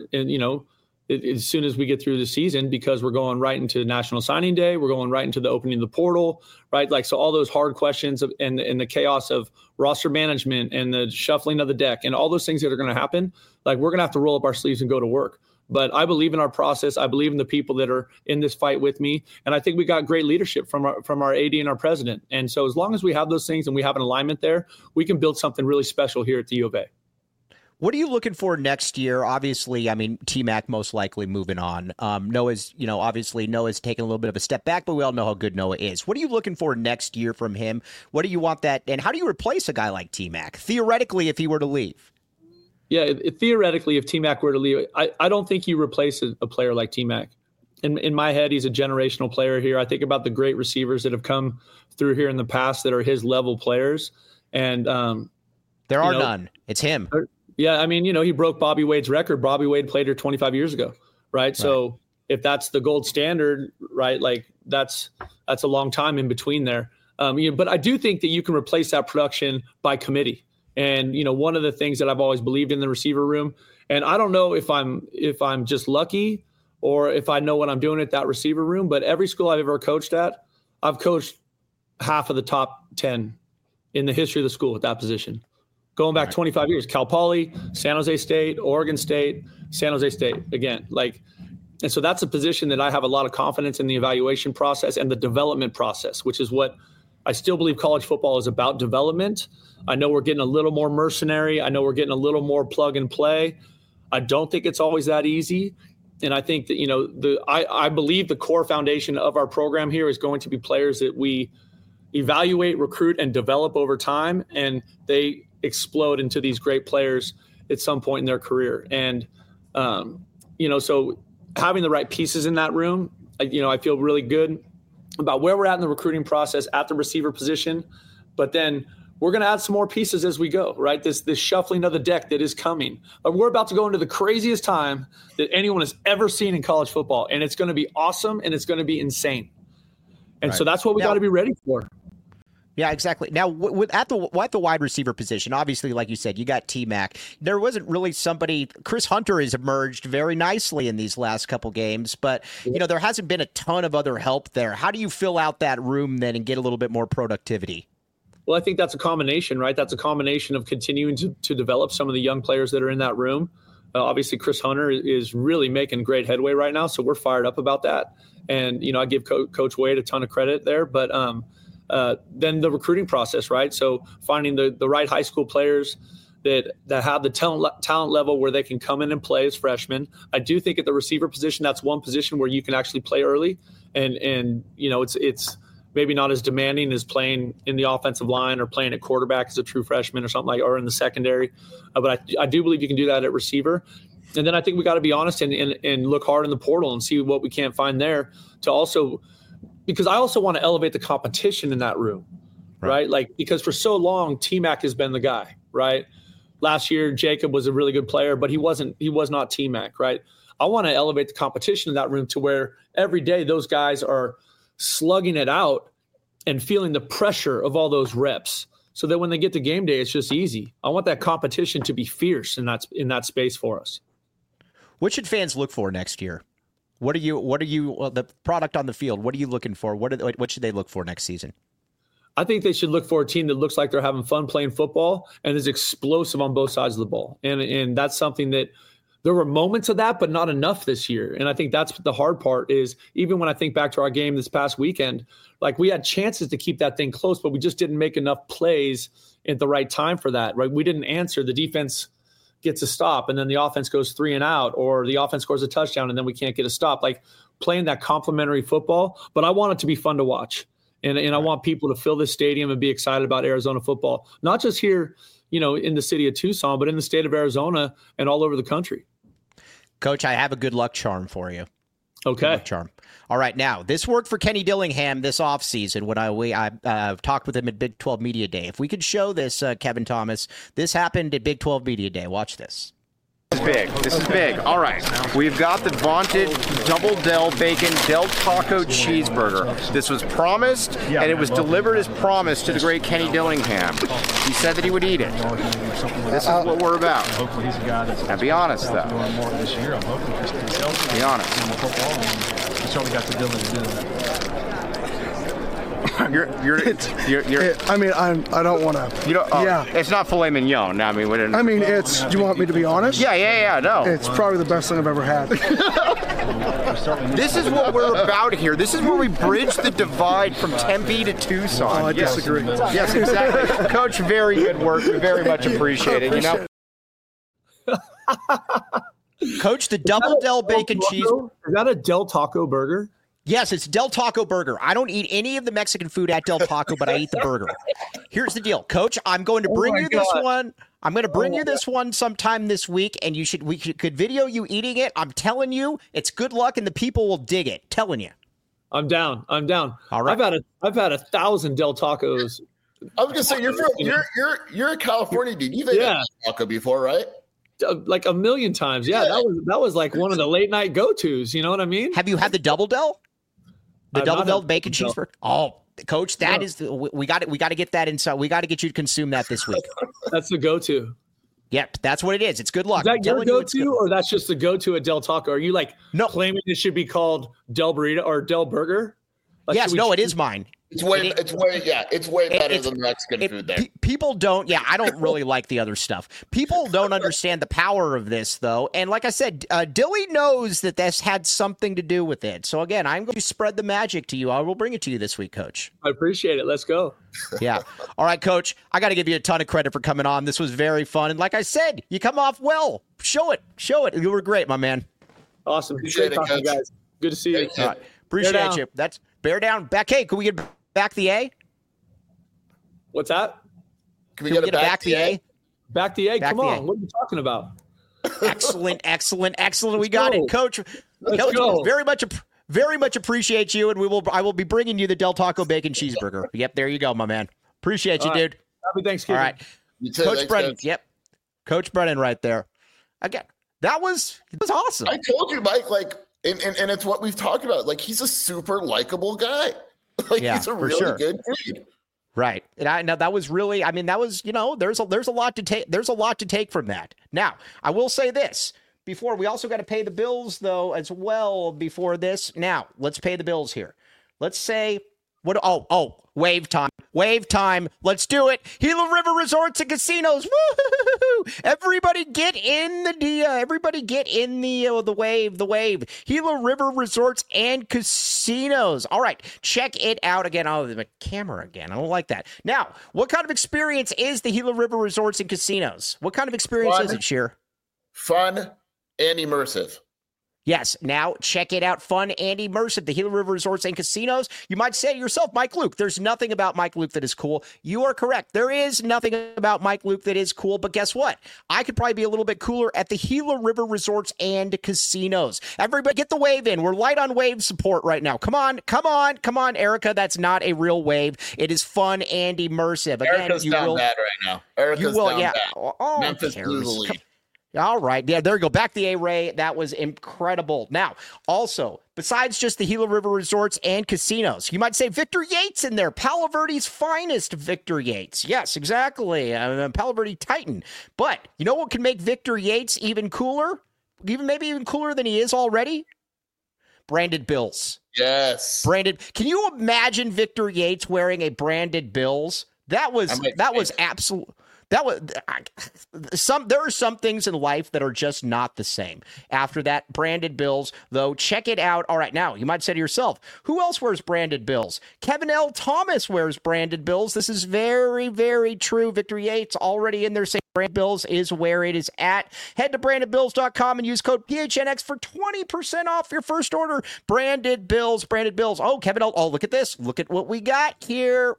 as soon as we get through the season, because we're going right into National Signing Day. We're going right into the opening of the portal, right? Like, so all those hard questions and the chaos of roster management and the shuffling of the deck and all those things that are going to happen, like, we're going to have to roll up our sleeves and go to work. But I believe in our process. I believe in the people that are in this fight with me. And I think we got great leadership from our AD and our president. And so as long as we have those things and we have an alignment there, we can build something really special here at the U of A. What are you looking for next year? Obviously, T-Mac most likely moving on. Noah's taking a little bit of a step back, but we all know how good Noah is. What are you looking for next year from him? What do you want that? And how do you replace a guy like T-Mac, theoretically, if he were to leave? Yeah, theoretically, if T-Mac were to leave, I don't think you replace a player like T-Mac. In my head, he's a generational player here. I think about the great receivers that have come through here in the past that are his level players. And there are none. It's him. Yeah, he broke Bobby Wade's record. Bobby Wade played here 25 years ago, right? So if that's the gold standard, right, like that's a long time in between there. But I do think that you can replace that production by committee. And, one of the things that I've always believed in the receiver room, and I don't know if I'm just lucky or if I know what I'm doing at that receiver room, but every school I've ever coached at, I've coached half of the top 10 in the history of the school at that position. Going back 25 years, Cal Poly, San Jose State, Oregon State, San Jose State again. And so that's a position that I have a lot of confidence in the evaluation process and the development process, which is what I still believe college football is about, development. I know we're getting a little more mercenary. I know we're getting a little more plug and play. I don't think it's always that easy. And I think that, I believe the core foundation of our program here is going to be players that we evaluate, recruit, and develop over time. And they explode into these great players at some point in their career. And, so having the right pieces in that room, I feel really good about where we're at in the recruiting process at the receiver position. But then we're going to add some more pieces as we go, right? This shuffling of the deck that is coming. We're about to go into the craziest time that anyone has ever seen in college football. And it's going to be awesome and it's going to be insane. And so that's what we got to be ready for. Yeah, exactly. Now, at the wide receiver position, obviously, like you said, you got T-Mac. There wasn't really somebody. Chris Hunter has emerged very nicely in these last couple games, but there hasn't been a ton of other help there. How do you fill out that room then and get a little bit more productivity? Well, I think that's a combination, right? That's a combination of continuing to develop some of the young players that are in that room. Obviously, Chris Hunter is really making great headway right now, so we're fired up about that. And I give Coach Wade a ton of credit there, but then the recruiting process, right? So finding the right high school players that have the talent level where they can come in and play as freshmen. I do think at the receiver position, that's one position where you can actually play early, and it's maybe not as demanding as playing in the offensive line or playing at quarterback as a true freshman or something or in the secondary. But I do believe you can do that at receiver. And then I think we got to be honest and look hard in the portal and see what we can't find there to also. Because I also want to elevate the competition in that room, right? Because for so long, T-Mac has been the guy, right? Last year, Jacob was a really good player, but he was not T-Mac, right? I want to elevate the competition in that room to where every day those guys are slugging it out and feeling the pressure of all those reps so that when they get to game day, it's just easy. I want that competition to be fierce in that space for us. What should fans look for next year? What are you the product on the field? What are you looking for? What should they look for next season? I think they should look for a team that looks like they're having fun playing football and is explosive on both sides of the ball. And that's something that there were moments of that, but not enough this year. And I think that's the hard part is even when I think back to our game this past weekend, we had chances to keep that thing close, but we just didn't make enough plays at the right time for that, right? We didn't answer. The defense gets a stop and then the offense goes 3 and out, or the offense scores a touchdown and then we can't get a stop. Playing that complementary football, but I want it to be fun to watch. And I want people to fill this stadium and be excited about Arizona football, not just here, in the city of Tucson, but in the state of Arizona and all over the country. Coach, I have a good luck charm for you. Okay. Good luck charm. All right. Now, this worked for Kenny Dillingham this offseason when I talked with him at Big 12 Media Day. If we could show this, Kevin Thomas, this happened at Big 12 Media Day. Watch this. This is big. All right. We've got the vaunted Double Del Bacon Del Taco Cheeseburger. This was promised, and it was delivered as promised to the great Kenny Dillingham. He said that he would eat it. This is what we're about. Now, be honest, though. Be honest. I don't want to. It's not filet mignon. No, it's. Do you want me to be honest? Yeah. No. It's probably the best thing I've ever had. This is what we're about here. This is where we bridge the divide from Tempe to Tucson. Oh, I disagree. Yes, exactly. Coach, very good work. We very much appreciate it. Coach, the Double Del Bacon Cheese. Is that a Del Taco burger? Yes, it's Del Taco Burger. I don't eat any of the Mexican food at Del Taco, but I eat the burger. Here's the deal, Coach. I'm going to bring you this one. I'm going to bring you this one sometime this week, and we could video you eating it. I'm telling you, it's good luck, and the people will dig it. Telling you. I'm down. All right. I've had 1,000 Del Tacos. I was gonna say you're a California dude. You've had Del Taco before, right? Like a million times. Yeah. That was like one of the late night go-tos. You know what I mean? Have you had the Double Del? The Double Del Bacon Cheeseburger? Oh, Coach, that is we got to get that inside. We got to get you to consume that this week. That's the go-to. Yep, that's what it is. It's good luck. Is that your go-to, or that's just the go-to at Del Taco? Are you claiming it should be called Del Burrito or Del Burger? Yes, it is mine. It's way better than Mexican food there. People don't. Yeah, I don't really like the other stuff. People don't understand the power of this, though. And like I said, Dilly knows that this had something to do with it. So again, I'm going to spread the magic to you. I will bring it to you this week, Coach. I appreciate it. Let's go. Yeah. All right, Coach. I got to give you a ton of credit for coming on. This was very fun. And like I said, you come off well. Show it. You were great, my man. Awesome. Appreciate it, talking, guys. Good to see you. All right. Appreciate you. That's bear down. Back. Hey, can we get back the A? What's that? Can we get back the A? Back the A? Come on. What are you talking about? Excellent. We got it, Coach. Coach, very much appreciate you, and I will be bringing you the Del Taco Bacon Cheeseburger. Yep, there you go, my man. Appreciate you, dude. Happy Thanksgiving. All right. You too. Coach Thanks, Brennan. Coach. Yep. Coach Brennan right there. Again, it was awesome. I told you, Mike, and it's what we've talked about. Like, he's a super likable guy. He's a really good dude. Right. And that was really, there's a lot to take. There's a lot to take from that. Now, I will say this. Before, we also got to pay the bills, though, as well before this. Now, let's pay the bills here. Let's say, wave time. Let's do it. Gila River Resorts and Casinos. Woo! Everybody get in the wave. Gila River Resorts and Casinos. All right. Check it out again. Oh, the camera again. I don't like that. Now, what kind of experience is the Gila River Resorts and Casinos? What kind of experience is it, Sheer? Fun and immersive. Yes. Now check it out. Fun and immersive. The Gila River Resorts and Casinos. You might say to yourself, Mike Luke, there's nothing about Mike Luke that is cool. You are correct. There is nothing about Mike Luke that is cool. But guess what? I could probably be a little bit cooler at the Gila River Resorts and Casinos. Everybody get the wave in. We're light on wave support right now. Come on, Erica. That's not a real wave. It is fun and immersive. Again, Erica's down bad right now. Erica's down bad. Oh, Memphis Blues the lead. All right. Yeah, there you go. Back the A-Ray. That was incredible. Now, also, besides just the Gila River Resorts and Casinos, you might say Victor Yates in there. Palo Verde's finest Victor Yates. Yes, exactly. Palo Verde Titan. But you know what can make Victor Yates even cooler? Maybe even cooler than he is already? Branded Bills. Yes. Can you imagine Victor Yates wearing a branded Bills? That was absolute. There are some things in life that are just not the same. After that, branded Bills, though, check it out. All right, now, you might say to yourself, who else wears branded Bills? Kevin L. Thomas wears branded Bills. This is very, very true. Victor Yates already in there saying Branded Bills is where it is at. Head to brandedbills.com and use code PHNX for 20% off your first order. Branded Bills. Oh, Kevin L. Oh, look at this. Look at what we got here.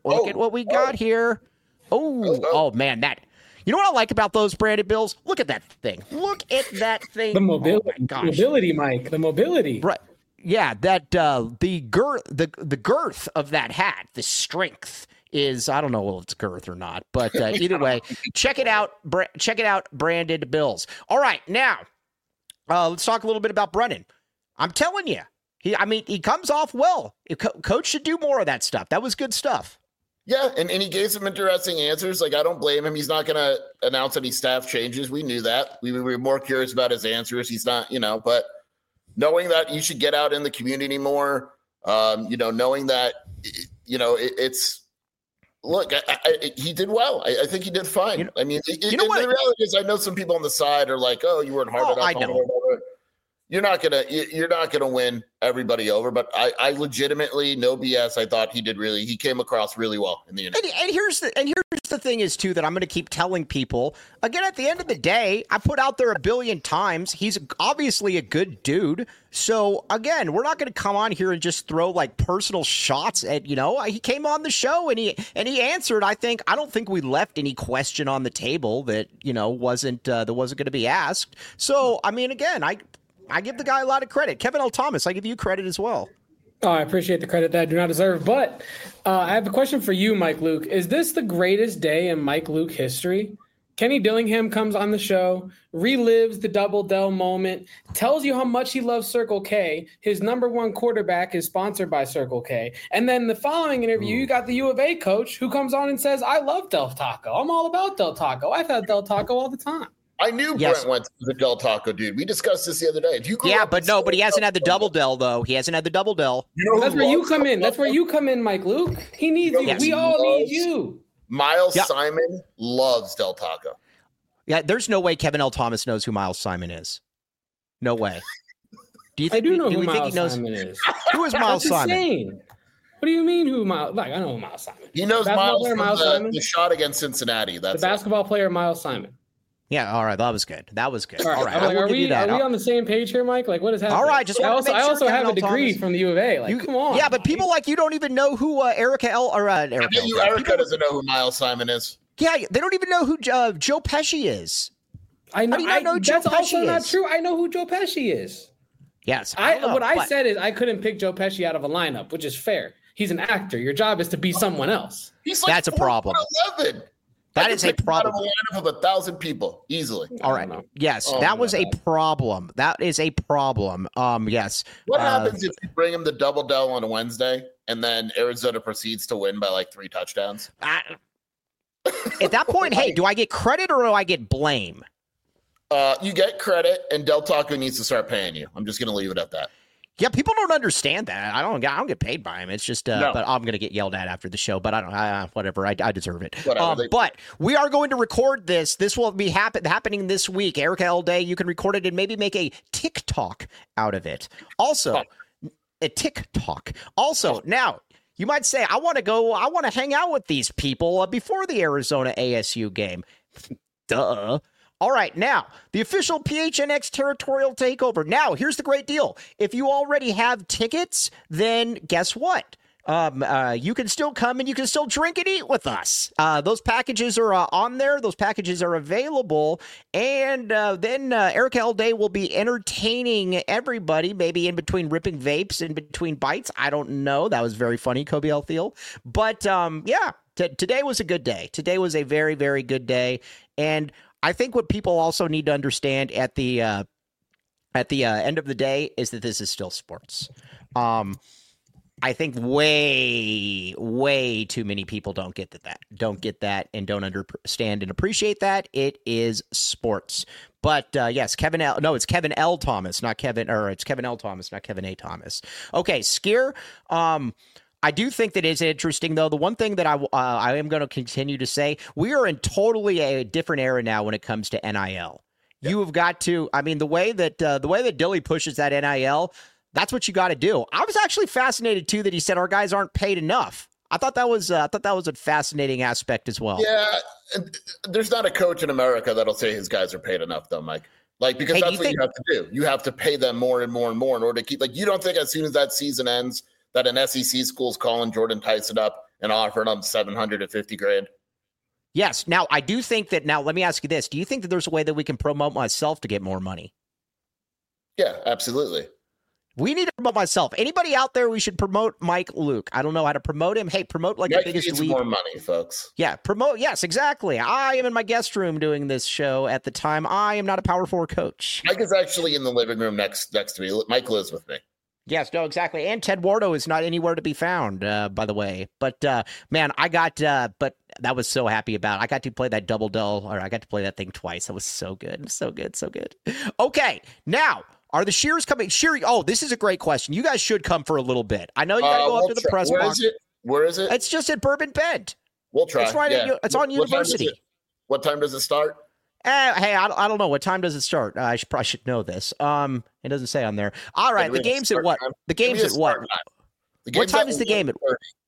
Oh, man, you know what I like about those branded Bills? Look at that thing. The mobility, mobility, Mike. The mobility. Right. Yeah, that the girth of that hat, the strength is, I don't know if it's girth or not, but either way, check it out. Check it out, Branded Bills. All right, now let's talk a little bit about Brennan. I'm telling you, he comes off well. Coach should do more of that stuff. That was good stuff. Yeah, and he gave some interesting answers. I don't blame him. He's not going to announce any staff changes. We knew that. We were more curious about his answers. He's not, but knowing that you should get out in the community more, knowing that, he did well. I think he did fine. The reality is I know some people on the side are like, oh, you weren't hard enough. I know. You're not gonna win everybody over, but I legitimately, no BS, I thought he came across really well in the interview. And here's the thing is too that I'm going to keep telling people again. At the end of the day, I put out there a billion times. He's obviously a good dude. So again, we're not going to come on here and just throw personal shots at He came on the show and he answered. I don't think we left any question on the table that wasn't going to be asked. So again, I give the guy a lot of credit. Kevin L. Thomas, I give you credit as well. Oh, I appreciate the credit that I do not deserve. But I have a question for you, Mike Luke. Is this the greatest day in Mike Luke history? Kenny Dillingham comes on the show, relives the Double Dell moment, tells you how much he loves Circle K. His number one quarterback is sponsored by Circle K. And then the following interview, you got the U of A coach who comes on and says, I love Del Taco. I'm all about Del Taco. I've had Del Taco all the time. I knew Brent Wentz was a Del Taco dude. We discussed this the other day. If you but he hasn't had the double Del though. He hasn't had the double Del. That's where you come in. That's where you come in, Mike Luke. He needs you. We all need you. Miles Simon loves Del Taco. Yeah, there's no way Kevin L. Thomas knows who Miles Simon is. No way. Do you think? I do know who Miles Simon is. Who is Miles Simon? Insane. What do you mean who Miles? Like I know who Miles Simon. He knows Miles from the shot against Cincinnati. That's the basketball player Miles Simon. Yeah, all right, that was good. All right, are we on the same page here, Mike? Like, what is happening? All right, just I also have a Kevin degree Thomas. from the U of A. Like, come on. Yeah, but people like you don't even know who Erica Erica doesn't know who Miles Simon is. Yeah, they don't even know who Joe Pesci is. I know. That's also not true. I know who Joe Pesci is. Yes. I said is I couldn't pick Joe Pesci out of a lineup, which is fair. He's an actor. Your job is to be someone else. That's a problem. 11. That is a problem. Out of a lineup of 1,000 people easily. All right. Yes, that was a problem. That is a problem. Yes. What happens if you bring him the double Del on a Wednesday and then Arizona proceeds to win by like 3 touchdowns? At that point, hey, do I get credit or do I get blame? You get credit, and Del Taco needs to start paying you. I'm just going to leave it at that. Yeah, people don't understand that. I don't get paid by him. It's just, but I'm going to get yelled at after the show. But I don't. Whatever. I deserve it. But we are going to record this. This will be happening this week. Erica L. Day, you can record it and maybe make a TikTok out of it. Also, a TikTok. Also, now you might say, I want to hang out with these people before the Arizona ASU game. Duh. All right, now, the official PHNX territorial takeover. Now, here's the great deal. If you already have tickets, then guess what? You can still come and you can still drink and eat with us. Those packages are on there. Those packages are available. And then Erica L. Day will be entertaining everybody, maybe in between ripping vapes, in between bites. I don't know. That was very funny, Kobe L. Thiel. But, yeah, today was a good day. Today was a very, very good day. And I think what people also need to understand at the end of the day is that this is still sports. I think way too many people don't get that and don't understand and appreciate that. It is sports. But yes, it's Kevin L. Thomas, not Kevin, or it's Kevin L. Thomas, not Kevin A. Thomas. Okay, Skier. I do think that it's interesting, though. The one thing that I am going to continue to say, we are in totally a different era now when it comes to NIL. Yep. You have got to, I mean, the way that Dilly pushes that NIL, that's what you got to do. I was actually fascinated too that he said our guys aren't paid enough. I thought that was a fascinating aspect as well. Yeah, there's not a coach in America that'll say his guys are paid enough, though, Mike. Like, because that's what you have to do. You have to pay them more and more and more in order to keep. Like, you don't think as soon as that season ends that an SEC school's calling Jordan Tyson up and offering him $750,000? Yes. Now, I do think that. Now, let me ask you this: do you think that there's a way that we can promote myself to get more money? Yeah, absolutely. We need to promote myself. Anybody out there, we should promote Mike Luke. I don't know how to promote him. Hey, promote like Mike the biggest needs league. More money, folks. Yeah, promote. Yes, exactly. I am in my guest room doing this show at the time. I am not a Power 4 coach. Mike is actually in the living room next to me. Mike lives with me. Yes, no, exactly. And Ted Wardo is not anywhere to be found, by the way. But, man, but that was so happy about. I got to play that double Del, or I got to play that thing twice. That was so good. So good. So good. Okay, now. Are the Shears coming? This is a great question. You guys should come for a little bit. I know you got to go up to the press box. Where is it? It's just at Bourbon Bend. We'll try. It's right. It's on University. What time does it start? Hey, I don't know. What time does it start? I probably should know this. It doesn't say on there. All right. The game's at what? The game's at what? What time is the game at?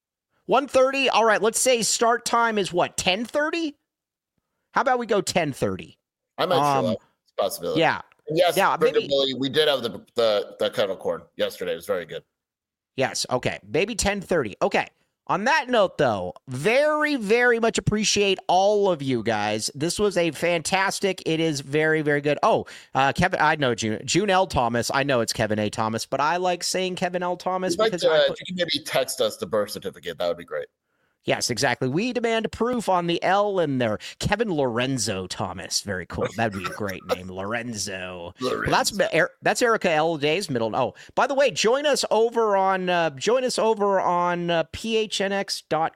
1:30. All right. Let's say start time is what? 10:30. How about we go 10:30? I might show up. It's a possibility. Yeah. Yes, maybe. We did have the kettle corn yesterday. It was very good. Yes. Okay. Maybe 10:30. Okay. On that note, though, very, very much appreciate all of you guys. This was a fantastic. It is very, very good. Oh, Kevin, I know June L. Thomas. I know it's Kevin A. Thomas, but I like saying Kevin L. Thomas because if you can maybe text us the birth certificate, that would be great. Yes, exactly. We demand proof on the L in there. Kevin Lorenzo Thomas. Very cool. That'd be a great name. Lorenzo. Well, that's Erica L. Day's middle. Oh, by the way, join us over on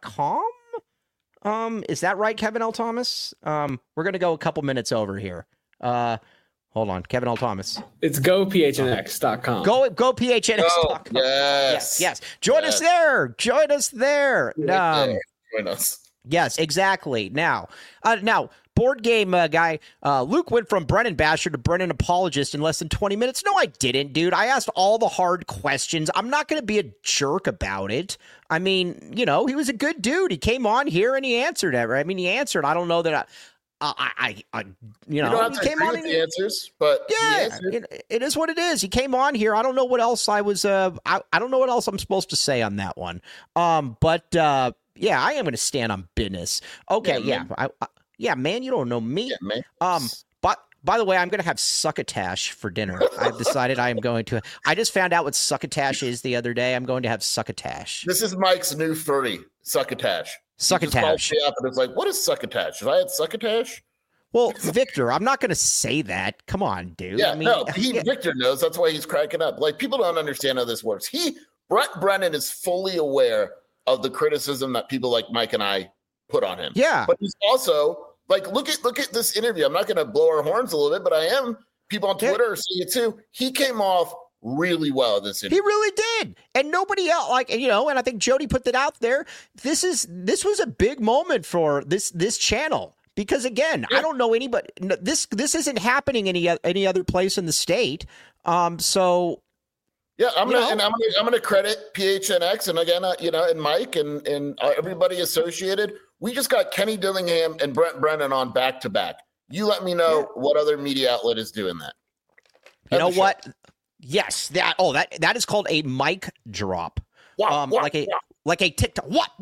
phnx.com. Is that right, Kevin L. Thomas? We're going to go a couple minutes over here. Hold on, Kevin L. Thomas. It's gophnx.com. Go phnx.com. Yes. Join us there. Join us there. Join us. Yes, exactly. Now, board game guy, Luke went from Brennan Basher to Brennan Apologist in less than 20 minutes. No, I didn't, dude. I asked all the hard questions. I'm not going to be a jerk about it. I mean, he was a good dude. He came on here and he answered it. I mean, he answered. I don't know that you don't have to agree with the answers, but yeah, it is what it is. He came on here. I don't know what else I was. I don't know what else I'm supposed to say on that one. But yeah, I am going to stand on business. Okay, yeah, man, you don't know me. Yeah, man. But by the way, I'm going to have succotash for dinner. I've decided I am going to. I just found out what succotash is the other day. I'm going to have succotash. This is Mike's new furry, succotash. Succotash. And it's like, what is succotash? Have I had succotash? Well, Victor, I'm not going to say that. Come on, dude. Yeah, Victor knows. That's why he's cracking up. Like, people don't understand how this works. Brett Brennan is fully aware of the criticism that people like Mike and I put on him. Yeah. But he's also, like, look at this interview. I'm not going to blow our horns a little bit, but I am. People on Twitter are seeing it too. He came off really well in this interview. He really did. And nobody else, and I think Jody put that out there. This was a big moment for this channel because, again, I don't know anybody. This isn't happening any other place in the state. So yeah, I'm gonna credit PHNX and again, and Mike and everybody associated. We just got Kenny Dillingham and Brett Brennan on back to back. You let me know what other media outlet is doing that. You know what? Yes, that is called a mic drop. Like a TikTok. What?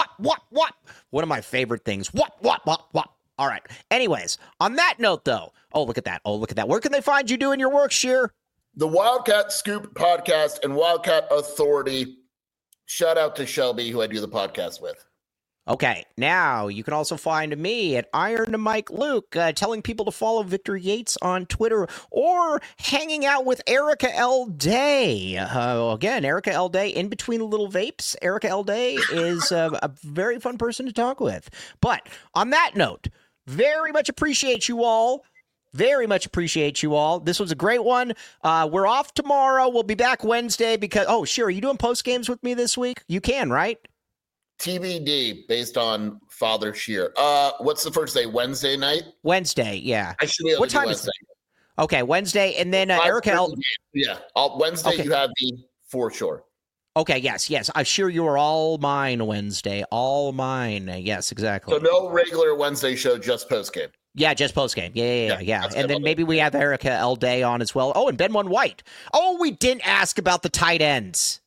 One of my favorite things. What? All right. Anyways, on that note, though, look at that. Where can they find you doing your work, Sheer? The Wildcat Scoop podcast and Wildcat Authority. Shout out to Shelby, who I do the podcast with. Okay, now you can also find me at Iron to Mike Luke, telling people to follow Victor Yates on Twitter or hanging out with Erica L. Day. Again, Erica L. Day, in between the little vapes. Erica L. Day is a very fun person to talk with. But on that note, very much appreciate you all. Very much appreciate you all. This was a great one. We're off tomorrow. We'll be back Wednesday because, sure, are you doing post games with me this week? You can, right? TBD based on Father Sheer. What's the first day? Wednesday night? Wednesday, yeah. I should be able to do Wednesday. Okay, Wednesday, and then Erica. Yeah, Wednesday you have me for sure. Okay, yes. I'm sure you are all mine Wednesday. All mine. Yes, exactly. So no regular Wednesday show, just post game. Yeah, just post game. Yeah. And then maybe we have Erica L. Day on as well. Oh, and Ben One White. Oh, we didn't ask about the tight ends.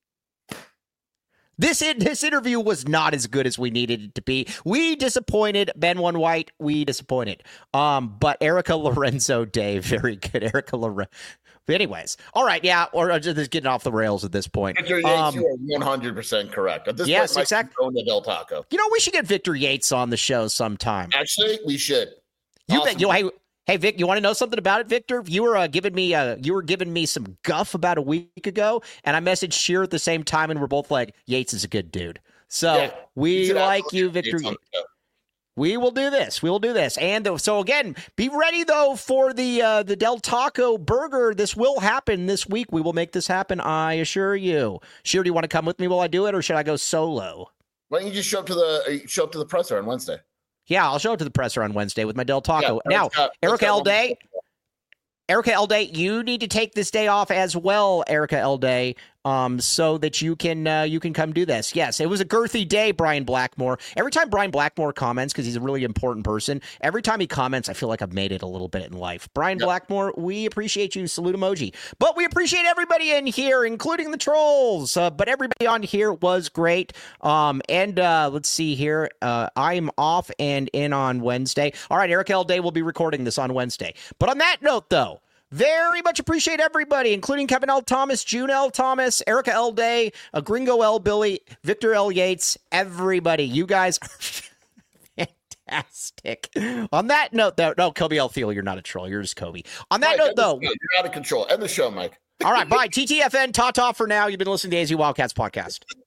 This interview was not as good as we needed it to be. We disappointed. Ben One White, we disappointed. But Erica Lorenzo Day, very good. Erica Lorenzo. Anyways, all right, yeah, or just getting off the rails at this point. Victor Yates, you are 100% correct. At this point, exactly. The Del Taco. We should get Victor Yates on the show sometime. Actually, we should. Hey, Vic, you want to know something about it, Victor? You were giving me some guff about a week ago, and I messaged Sheer at the same time, and we're both like, Yates is a good dude. So we like you, Victor. We will do this. And so again, be ready though for the Del Taco burger. This will happen this week. We will make this happen. I assure you. Sheer, do you want to come with me while I do it, or should I go solo? Why don't you just show up to the presser on Wednesday? Yeah, I'll show up to the presser on Wednesday with my Del Taco. Now, Erica L. Day, you need to take this day off as well, Erica L. Day, so that you can come do this. Yes, it was a girthy day, Brian Blackmore. Every time Brian Blackmore comments, because he's a really important person, every time he comments, I feel like I've made it a little bit in life. Brian Blackmore, we appreciate you. Salute emoji. But we appreciate everybody in here, including the trolls. But everybody on here was great. And let's see here. I'm off and in on Wednesday. All right, Eric L. Day will be recording this on Wednesday. But on that note, though, very much appreciate everybody, including Kevin L. Thomas, June L. Thomas, Erica L. Day, Gringo L. Billy, Victor L. Yates, everybody. You guys are fantastic. On that note, though, no, Kobe L. Thiel, you're not a troll. You're just Kobe. On that note, though. You're out of control. End the show, Mike. All right, bye. TTFN, ta-ta for now. You've been listening to AZ Wildcats podcast.